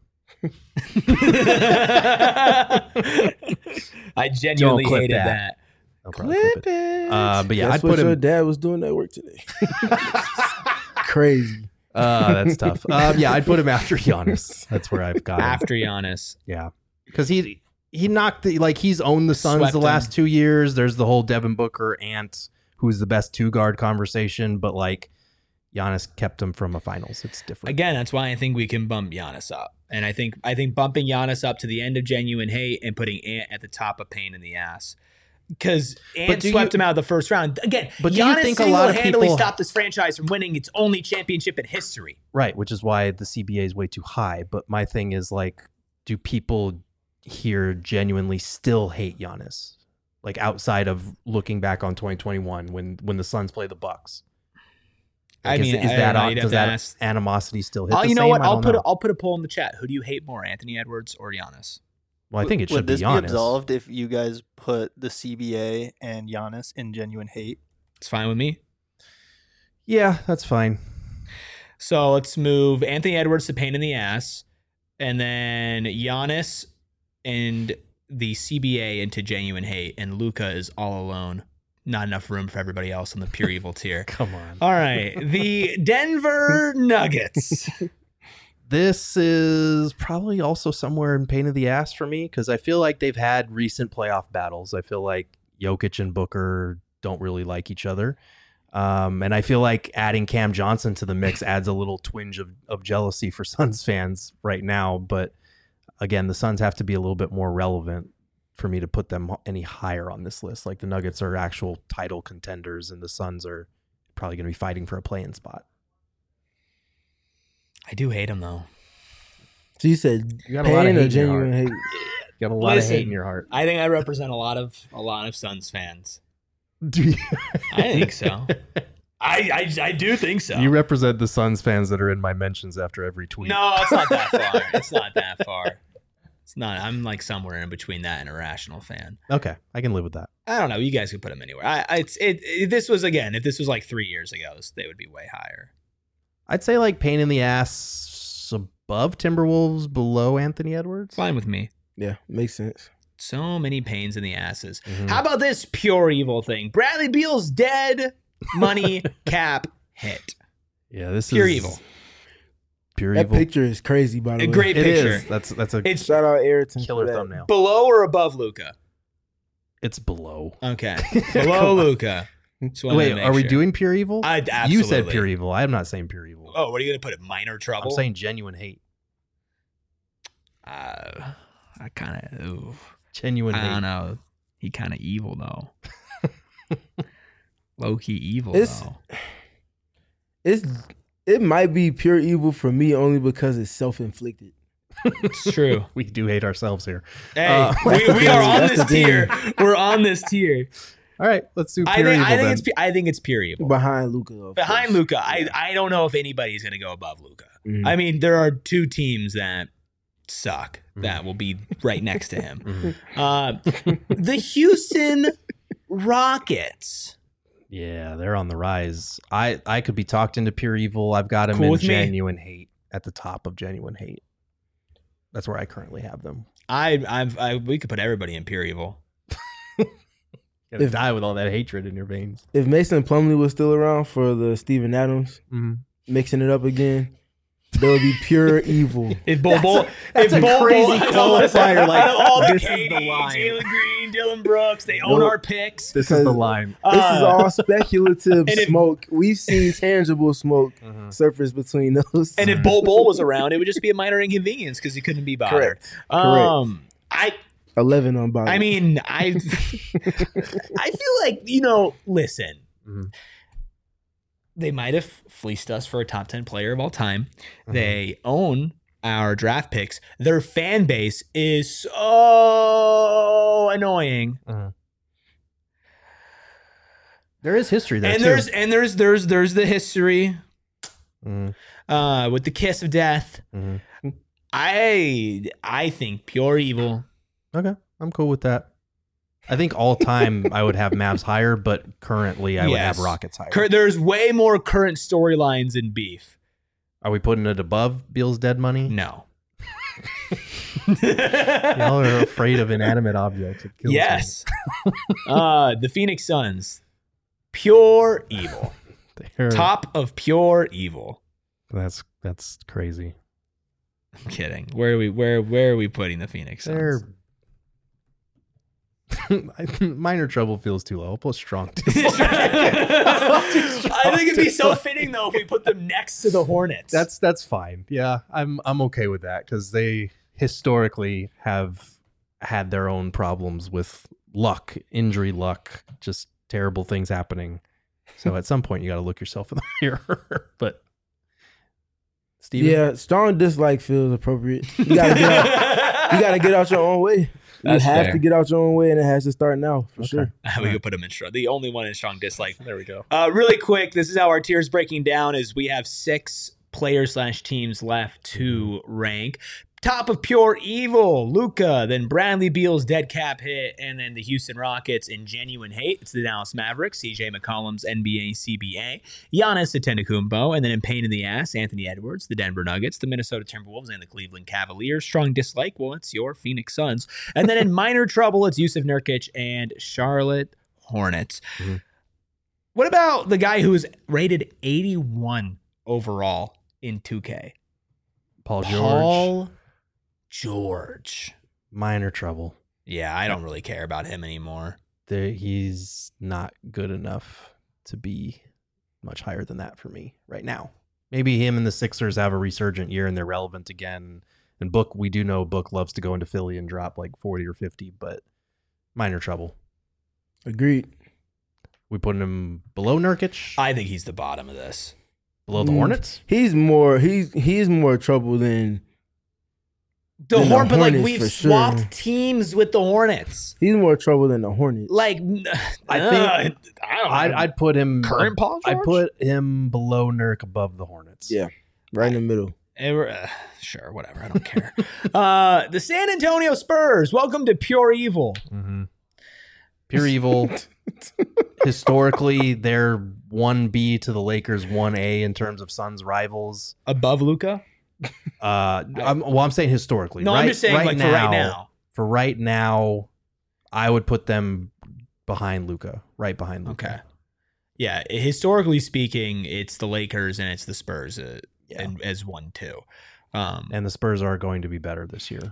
I genuinely hated that. Clip it. But yeah, I'd put him. Your dad was doing that work today. Crazy. That's tough. Yeah, I'd put him after Giannis. That's where I've got him. After Giannis. Yeah, because he knocked he's owned the Suns the last 2 years. There's the whole Devin Booker Ant, who's the best 2-guard conversation, but Giannis kept him from a finals. It's different. Again, that's why I think we can bump Giannis up. And I think bumping Giannis up to the end of genuine hate and putting Ant at the top of pain in the ass. Because Ant swept him out of the first round. Again, but Giannis single-handedly stopped this franchise from winning its only championship in history. Right, which is why the CBA is way too high. But my thing is, do people here genuinely still hate Giannis? Like outside of looking back on 2021 when the Suns play the Bucks. Like, I mean, does that animosity still hit? Oh, the you know same? what? I don't know. I'll put a poll in the chat. Who do you hate more, Anthony Edwards or Giannis? Well, I think it should Would this be be Giannis. absolved if you guys put the CBA and Giannis in genuine hate? It's fine with me. Yeah, that's fine. So let's move Anthony Edwards to pain in the ass, and then Giannis and the CBA into genuine hate, and Luka is all alone. Not enough room for everybody else on the pure evil tier. Come on. All right, the Denver Nuggets. This is probably also somewhere in pain in the ass for me because I feel like they've had recent playoff battles. I feel like Jokic and Booker don't really like each other. And I feel like adding Cam Johnson to the mix adds a little twinge of jealousy for Suns fans right now. But again, the Suns have to be a little bit more relevant for me to put them any higher on this list. Like the Nuggets are actual title contenders and the Suns are probably going to be fighting for a play-in spot. I do hate him though. So you said You got a lot of pain hate or in your genuine hate? You got a lot of hate in your heart. I think I represent a lot of Suns fans. Do you? I think so. I do think so. You represent the Suns fans that are in my mentions after every tweet. No, it's not that far. It's not that far. It's not. I'm like somewhere in between that and a rational fan. Okay, I can live with that. I don't know. You guys could put them anywhere. This was like 3 years ago, they would be way higher. I'd say like pain in the ass above Timberwolves, below Anthony Edwards. Fine with me. Yeah, makes sense. So many pains in the asses. Mhm. How about this pure evil thing? Bradley Beal's dead money cap hit. Yeah, this Pure is evil. Pure That evil. picture is crazy, by the A way. great It picture. is. That's a It's Shout out Ayrton. killer for that. thumbnail. below or above Luca? It's below. Okay. Below Luca. Wait, are we doing pure evil? Absolutely. You said pure evil. I'm not saying pure evil. Oh, what are you going to put it? Minor trouble? I'm saying genuine hate. I kind of, Genuine I hate. don't know. He kind of evil, though. Low-key evil, It's- though. It might be pure evil for me only because it's self-inflicted. It's true. We do hate ourselves here. Hey, That's we are on that's this the thing. tier. We're on this tier. All right, let's do pure I evil then. think it's pure evil. Behind Luka, though. of Behind course. Luca, I don't know if anybody's going to go above Luca. Mhm. I mean, there are two teams that suck that will be right next to him. Mhm. The Houston Rockets. Yeah, they're on the rise. I could be talked into pure evil. I've got them Cool in with me. genuine hate at the top of genuine hate. That's where I currently have them. We could put everybody in pure evil. Gonna If- die with all that hatred in your veins. If Mason Plumlee was still around for the Steven Adams, Mm-hmm. mixing it up again, there would be pure evil. If Bol that's a crazy qualifier, like, out of all the this is KD, the line. Jalen Green, Dylan Brooks, they own Nope. our picks. This is the line. This is all speculative and if- smoke. We've seen tangible smoke surface between those. And if Bol was around, it would just be a minor inconvenience because he couldn't be bothered. Correct. I 11 on bottom. I mean, I feel like, listen, Mhm. they might have fleeced us for a top 10 player of all time. Mhm. They own our draft picks. Their fan base is so annoying. There is history there And too. there's the history Mhm. with the kiss of death. Mhm. I think pure evil. Okay, I'm cool with that. I think all time I would have Mavs higher, but currently I would have Yes. Rockets higher. There's way more current storylines in beef. Are we putting it above Beal's dead money? No. Y'all are afraid of inanimate objects. It kills me. Yes. The Phoenix Suns. Pure evil. They're- Top of pure evil. That's crazy. I'm kidding. Where are we putting the Phoenix Suns? They're minor trouble feels too low. I'll put strong. I think it'd be so fitting though if we put them next to the Hornets. That's fine. Yeah, I'm okay with that because they historically have had their own problems with luck, injury luck, just terrible things happening. So at some point you got to look yourself in the mirror. But Steven? yeah, strong dislike feels appropriate. You gotta get out your own way. You That's have fair. to get out your own way, and it has to start now for sure. We could put him in strong. The only one in strong dislike. There we go. Really quick, this is how our tiers breaking down is we have 6 players/teams left to rank. Top of Pure Evil, Luka, then Bradley Beal's dead cap hit, and then the Houston Rockets in Genuine Hate. It's the Dallas Mavericks, CJ McCollum's NBA CBA, Giannis Antetokounmpo, and then in Pain in the Ass, Anthony Edwards, the Denver Nuggets, the Minnesota Timberwolves, and the Cleveland Cavaliers. Strong dislike, well, it's your Phoenix Suns. And then in Minor Trouble, it's Yusuf Nurkic and Charlotte Hornets. Mm-hmm. What about the guy who was rated 81 overall in 2K? Paul George. Minor trouble. Yeah, I don't really care about him anymore. He's not good enough to be much higher than that for me right now. Maybe him and the Sixers have a resurgent year and they're relevant again. And Book, we do know Book loves to go into Philly and drop like 40 or 50, but minor trouble. Agreed. We putting him below Nurkic? I think he's the bottom of this. Below the Hornets? He's more trouble than The Then the Hornets, but like Hornets, we've for swapped sure. teams with the Hornets. he's more trouble than the Hornets. Like, I think I'd put him current Paul George. I'd put him below Nurk above the Hornets. Yeah. Right in the middle. Sure, whatever. I don't care. The San Antonio Spurs. Welcome to Pure Evil. Mm-hmm. Pure Evil. Historically, they're 1B to the Lakers 1A in terms of Suns rivals. Above Luka? I'm saying historically. No, I'm just saying like for right now. For right now, I would put them behind Luka, right behind Luka. Okay. Yeah, historically speaking, it's the Lakers and it's the Spurs and as 1-2. And the Spurs are going to be better this year.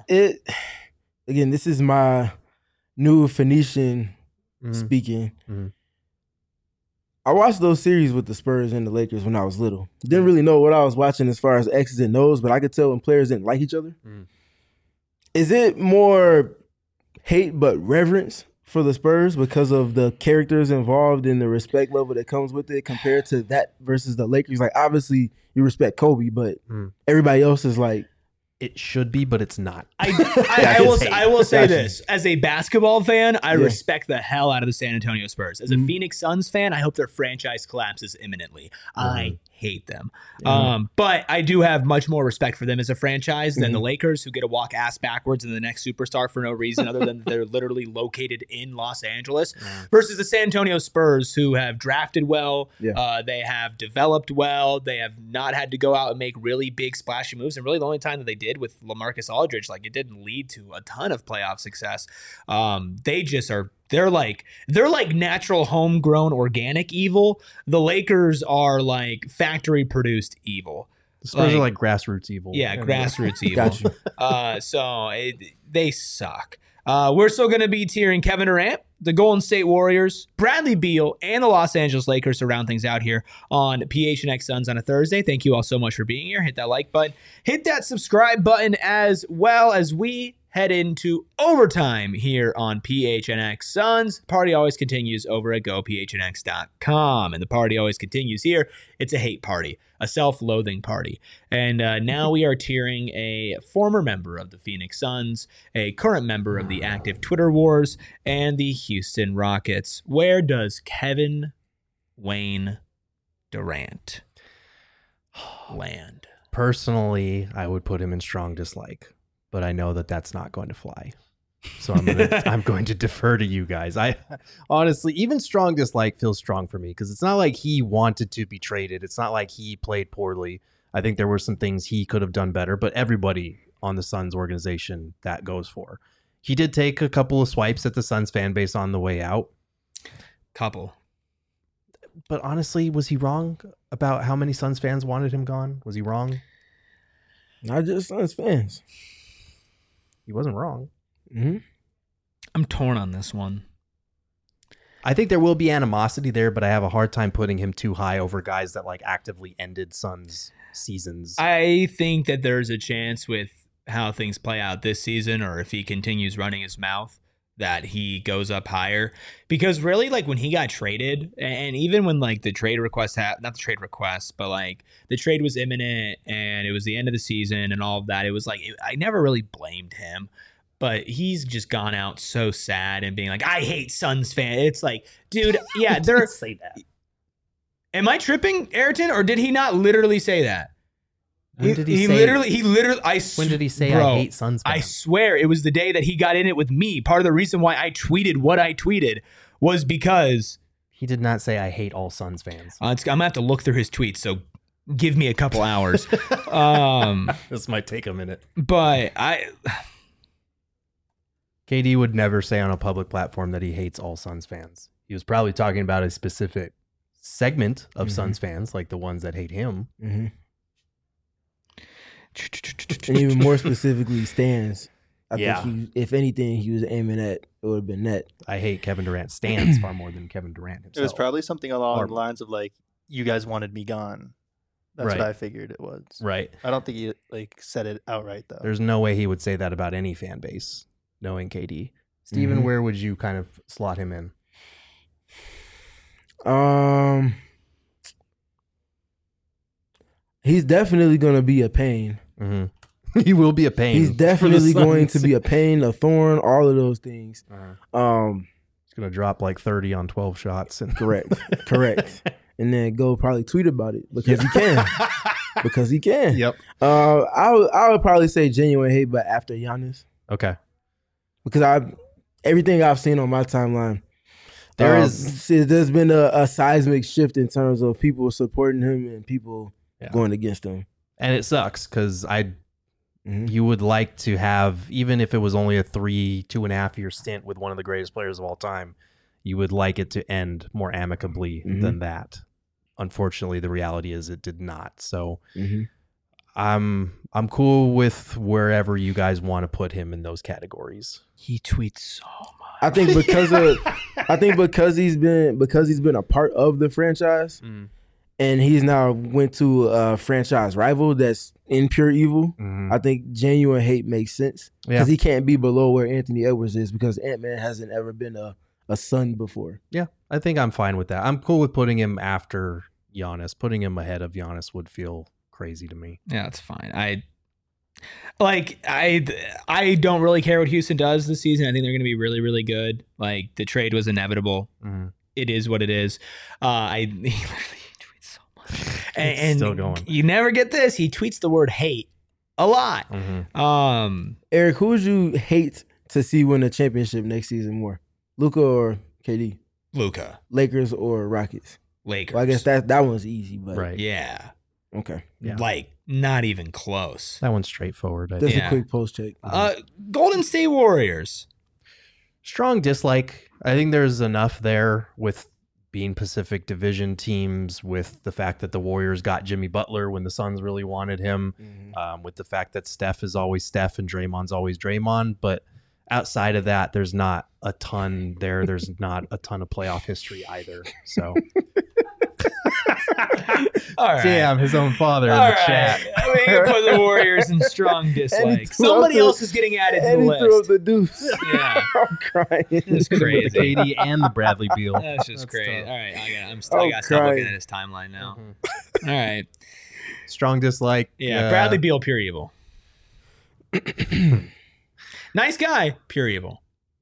Again, this is my new Phoenician Mhm. speaking. Mhm. I watched those series with the Spurs and the Lakers when I was little. Didn't really know what I was watching as far as X's and O's, but I could tell when players didn't like each other. Mm. Is it more hate but reverence for the Spurs because of the characters involved and the respect level that comes with it compared to that versus the Lakers? Like, obviously, you respect Kobe, but everybody else is like, It should be, but it's not. I will say Gotcha. this. As a basketball fan, I Yeah. respect the hell out of the San Antonio Spurs. As a Phoenix Suns fan, I hope their franchise collapses imminently. I hate them. But I do have much more respect for them as a franchise than the Lakers, who get to walk ass backwards in the next superstar for no reason other than they're literally located in Los Angeles, versus the San Antonio Spurs, who have drafted well. They have developed well. They have not had to go out and make really big splashy moves. And really the only time that they did with LaMarcus Aldridge, like, it didn't lead to a ton of playoff success. They're like natural homegrown organic evil. The Lakers are like factory produced evil. The Spurs are like grassroots evil. Yeah, grassroots evil. got you. They suck. We're still going to be tiering Kevin Durant, the Golden State Warriors, Bradley Beal, and the Los Angeles Lakers to round things out here on PHNX Suns on a Thursday. Thank you all so much for being here. Hit that like button. Hit that subscribe button as well as we head into overtime here on PHNX Suns. Party always continues over at gophnx.com. And the party always continues here. It's a hate party, a self-loathing party. And now we are tiering a former member of the Phoenix Suns, a current member of the active Twitter wars, and the Houston Rockets. Where does Kevin Wayne Durant land? Personally, I would put him in strong dislike, but I know that that's not going to fly. So I'm going to defer to you guys. I honestly, even strong dislike feels strong for me because it's not like he wanted to be traded. It's not like he played poorly. I think there were some things he could have done better, but everybody on the Suns organization that goes for. He did take a couple of swipes at the Suns fan base on the way out. Couple. But honestly, was he wrong about how many Suns fans wanted him gone? Was he wrong? Not just Suns fans. He wasn't wrong. Mm-hmm. I'm torn on this one. I think there will be animosity there, but I have a hard time putting him too high over guys that like actively ended Suns seasons. I think that there's a chance with how things play out this season, or if he continues running his mouth, that he goes up higher. Because really, like, when he got traded, and even when like the trade request not the trade request, but like the trade was imminent and it was the end of the season and all of that, it was like I never really blamed him. but he's just gone out so sad and being like, I hate Suns fan. It's like, dude, yeah, they're say that. Am I tripping, Ayrton, or did he not literally say that? When did he He say? literally. When did he say bro, I hate Suns fans? I swear it was the day that he got in it with me. Part of the reason why I tweeted what I tweeted was because He did not say I hate all Suns fans. I'm gonna have to look through his tweets. So give me a couple hours. This might take a minute. But KD would never say on a public platform that he hates all Suns fans. He was probably talking about a specific segment of Suns fans, like the ones that hate him. Mm-hmm. And even more specifically, Stans. I think if anything, he was aiming at, it would have been net. I hate Kevin Durant stands far more than Kevin Durant himself. It was probably something along the lines of like, "You guys wanted me gone." That's Right. what I figured it was. Right. I don't think he like said it outright though. There's no way he would say that about any fan base, knowing KD. Steven, where would you kind of slot him in? He's definitely going to be a pain. Mm-hmm. He will be a pain. He's definitely going to be a pain, a thorn, all of those things. He's going to drop like 30 on 12 shots. Correct. And then go probably tweet about it because he can. Because he can. Yep. I would probably say genuine hate, but after Giannis. Okay. Because everything I've seen on my timeline, there's been a seismic shift in terms of people supporting him and people going against him. And it sucks because you would like to have, even if it was only a 2.5 year stint with one of the greatest players of all time, you would like it to end more amicably than that. Unfortunately, the reality is it did not. So I'm cool with wherever you guys want to put him in those categories. he tweets so much. I think because he's been a part of the franchise, and he's now went to a franchise rival that's in pure evil. I think genuine hate makes sense because he can't be below where Anthony Edwards is because Ant-Man hasn't ever been a Sun before. Yeah, I think I'm fine with that. I'm cool with putting him after Giannis. Putting him ahead of Giannis would feel crazy to me. Yeah, that's fine. I don't really care what Houston does this season. I think they're going to be really, really good. Like the trade was inevitable. It is what it is. He literally tweets so much, and still going. You never get this. He tweets the word hate a lot. Eric, who would you hate to see win a championship next season more? Luka or KD? Luka. Lakers or Rockets? Lakers. Well, I guess that one's easy, but Right. Yeah. Okay. Yeah. Like not even close. That one's straightforward. I Just think. a quick post check. Golden State Warriors. Strong dislike. I think there's enough there with being Pacific Division teams, with the fact that the Warriors got Jimmy Butler when the Suns really wanted him, with the fact that Steph is always Steph and Draymond's always Draymond. But outside of that, there's not a ton there. There's not a ton of playoff history either. So, All right. damn, his own father in All the right. chat. I mean, you put the Warriors in strong dislike. Somebody else is getting added to the And he threw up list. the deuce. Yeah. I'm crying. It's crazy. The KD and the Bradley Beal. That's just crazy. tough. All right, I I'm gotta stop crying. looking at his timeline now. All right, Strong dislike. yeah, Bradley Beal, pure evil. Nice guy, pure evil.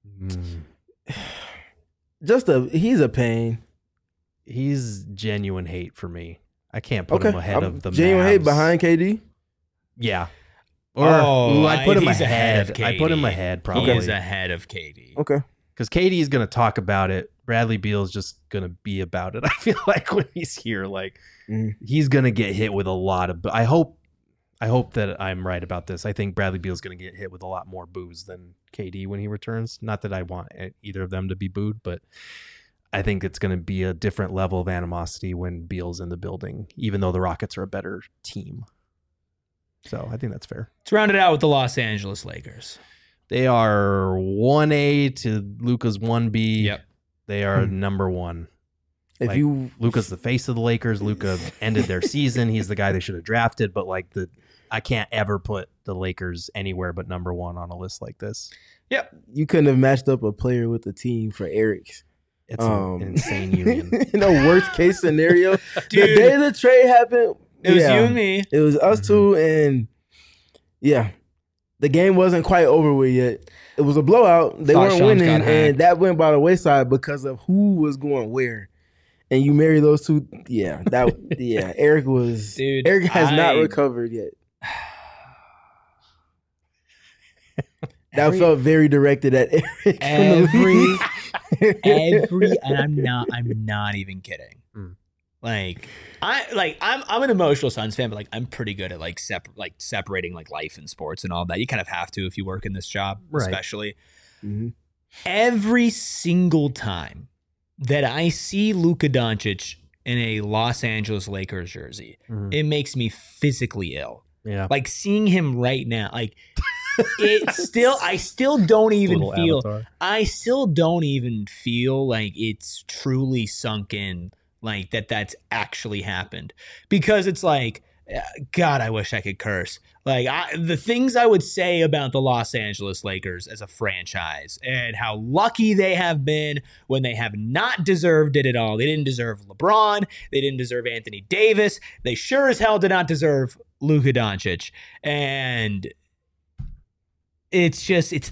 He's a pain. He's genuine hate for me. I can't put him ahead of the genuine hate Mavs. behind KD. Yeah. Or I'd put him he's ahead. of I put him KD. ahead probably. He is ahead of KD. Okay. Because KD is going to talk about it. Bradley Beal is just going to be about it. I feel like when he's here, like he's going to get hit with a lot of. I hope that I'm right about this. I think Bradley Beal is going to get hit with a lot more boos than KD when he returns. Not that I want either of them to be booed, but I think it's going to be a different level of animosity when Beal's in the building, even though the Rockets are a better team. So I think that's fair. Let's round it out with the Los Angeles Lakers. They are 1A to Luka's 1B. Yep. They are number one. If you Luka's the face of the Lakers. Luka ended their season. He's the guy they should have drafted. But I can't ever put the Lakers anywhere but number one on a list like this. Yep. you couldn't have matched up a player with a team for Eric's. It's an insane union. In the worst case scenario, Dude. the day the trade happened, It was you and me. It was us two, and yeah, the game wasn't quite over with yet. It was a blowout. They Thought weren't Shams winning, got hacked. and that went by the wayside because of who was going where. And you marry those two, Eric was. Dude, Eric has not recovered yet. That felt very directed at Eric. Every, and I'm not even kidding. I'm an emotional Suns fan, but like I'm pretty good at separating like life and sports and all that. You kind of have to if you work in this job, especially. Mm-hmm. Every single time that I see Luka Doncic in a Los Angeles Lakers jersey, it makes me physically ill. Yeah, like seeing him right now, like. I still don't even feel avatar. I still don't even feel like it's truly sunk in, like that's actually happened, because it's like, God, I wish I could curse. Like the things I would say about the Los Angeles Lakers as a franchise and how lucky they have been when they have not deserved it at all. They didn't deserve LeBron. They didn't deserve Anthony Davis. They sure as hell did not deserve Luka Doncic. And it's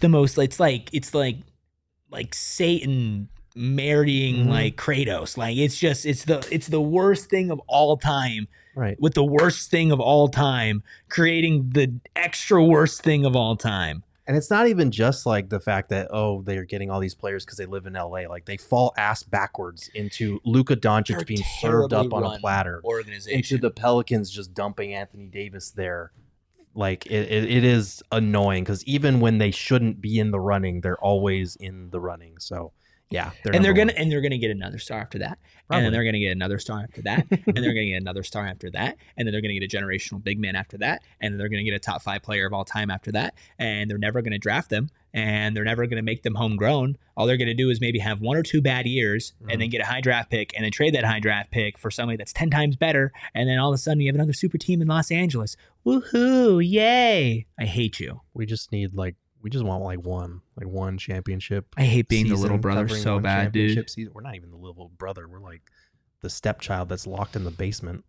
like Satan marrying like Kratos. Like it's the worst thing of all time. Right. With the worst thing of all time, creating the extra worst thing of all time. And it's not even just like the fact that, they're getting all these players because they live in LA. Like they fall ass backwards into Luka Doncic being served up on a platter. Organization. Into the Pelicans just dumping Anthony Davis there. Like it is annoying because even when they shouldn't be in the running, they're always in the running. So yeah, they're gonna get another star after that, and then they're gonna get another star after that, and they're gonna get another star after that, and then they're gonna get a generational big man after that, and then they're gonna get a top 5 player of all time after that, and they're never gonna draft them, and they're never gonna make them homegrown. All they're gonna do is maybe have 1 or 2 bad years, and then get a high draft pick, and then trade that high draft pick for somebody that's 10 times better, and then all of a sudden you have another super team in Los Angeles. Woohoo! Yay! I hate you. We just want like one championship. I hate being the little brother so bad, dude. Season. We're not even the little brother. We're like the stepchild that's locked in the basement.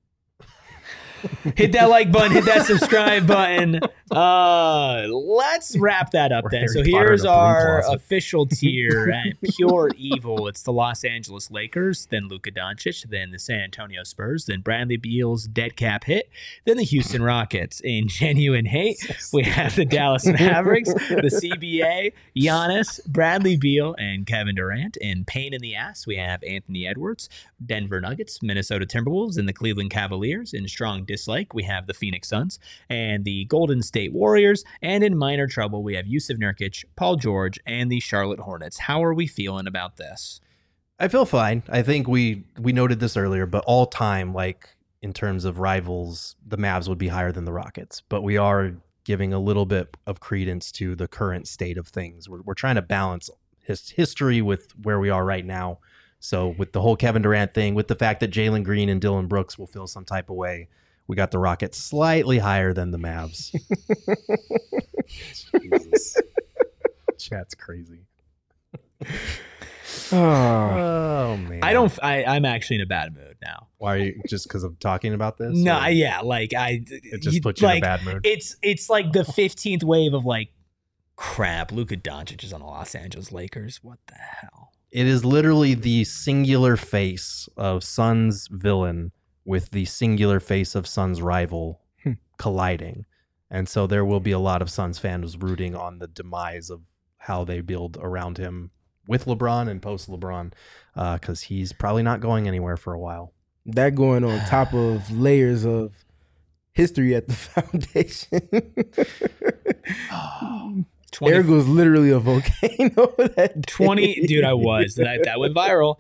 Hit that like button, hit that subscribe button. Let's wrap that up then. So here's our official tier at Pure Evil. It's the Los Angeles Lakers, then Luka Doncic, then the San Antonio Spurs, then Bradley Beal's dead cap hit, then the Houston Rockets. In Genuine Hate, we have the Dallas Mavericks, the CBA, Giannis, Bradley Beal, and Kevin Durant. In Pain in the Ass, we have Anthony Edwards, Denver Nuggets, Minnesota Timberwolves, and the Cleveland Cavaliers. In Strong Dislike, we have the Phoenix Suns and the Golden State Warriors. And in Minor Trouble, we have Yusuf Nurkic, Paul George, and the Charlotte Hornets. How are we feeling about this? I feel fine. I think we noted this earlier, but all time, like in terms of rivals, the Mavs would be higher than the Rockets. But we are giving a little bit of credence to the current state of things. We're trying to balance history with where we are right now. So with the whole Kevin Durant thing, with the fact that Jalen Green and Dylan Brooks will feel some type of way, we got the Rockets slightly higher than the Mavs. Jesus. Chat's crazy. Oh man. I'm actually in a bad mood now. Why are you, just because of talking about this? No, or? yeah, like it just puts you in a bad mood. It's like the 15th wave of like, crap, Luka Doncic is on the Los Angeles Lakers. What the hell? It is literally the singular face of Suns villain with the singular face of Suns rival colliding. And so there will be a lot of Suns fans rooting on the demise of how they build around him with LeBron and post LeBron, because he's probably not going anywhere for a while. That going on top of layers of history at the foundation. Eric was literally a volcano. That 20, dude, I was. That went viral.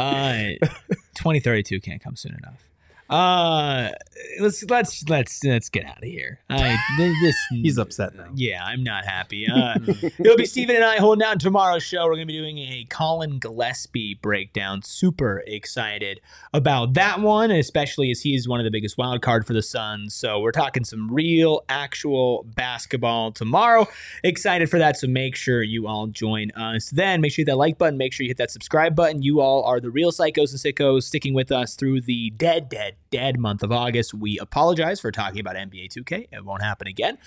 2032 can't come soon enough. Let's get out of here. He's upset now. Yeah, I'm not happy. It'll be Steven and I holding down tomorrow's show. We're going to be doing a Colin Gillespie breakdown. Super excited about that one, especially as he's one of the biggest wild card for the Suns. So we're talking some real, actual basketball tomorrow. Excited for that. So make sure you all join us then. Make sure you hit that like button. Make sure you hit that subscribe button. You all are the real psychos and sickos sticking with us through the dead month of August. we apologize for talking about NBA 2K. It won't happen again.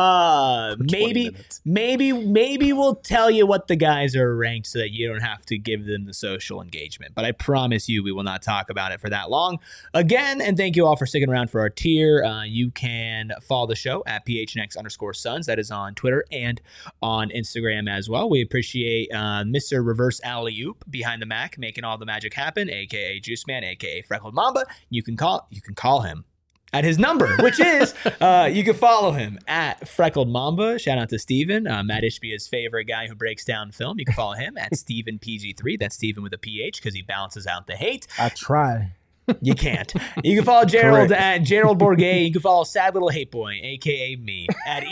Maybe we'll tell you what the guys are ranked so that you don't have to give them the social engagement. But I promise you, we will not talk about it for that long. Again, and thank you all for sticking around for our tier. You can follow the show at PHNX_Suns. That is on Twitter and on Instagram as well. We appreciate Mr. Reverse Alley-Oop behind the Mac making all the magic happen, aka Juice Man, aka Freckled Mamba. You can call him at his number, which is you can follow him at Freckled Mamba. Shout out to Steven, Matt Ishbia's favorite guy who breaks down film. You can follow him at Steven PG3. That's Steven with a PH because he balances out the hate. I try. You can't. You can follow Gerald at Gerald Bourget. You can follow Sad Little Hate Boy, aka me, at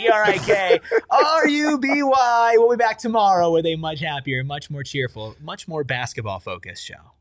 ERIKRUBY. We'll be back tomorrow with a much happier, much more cheerful, much more basketball focused show.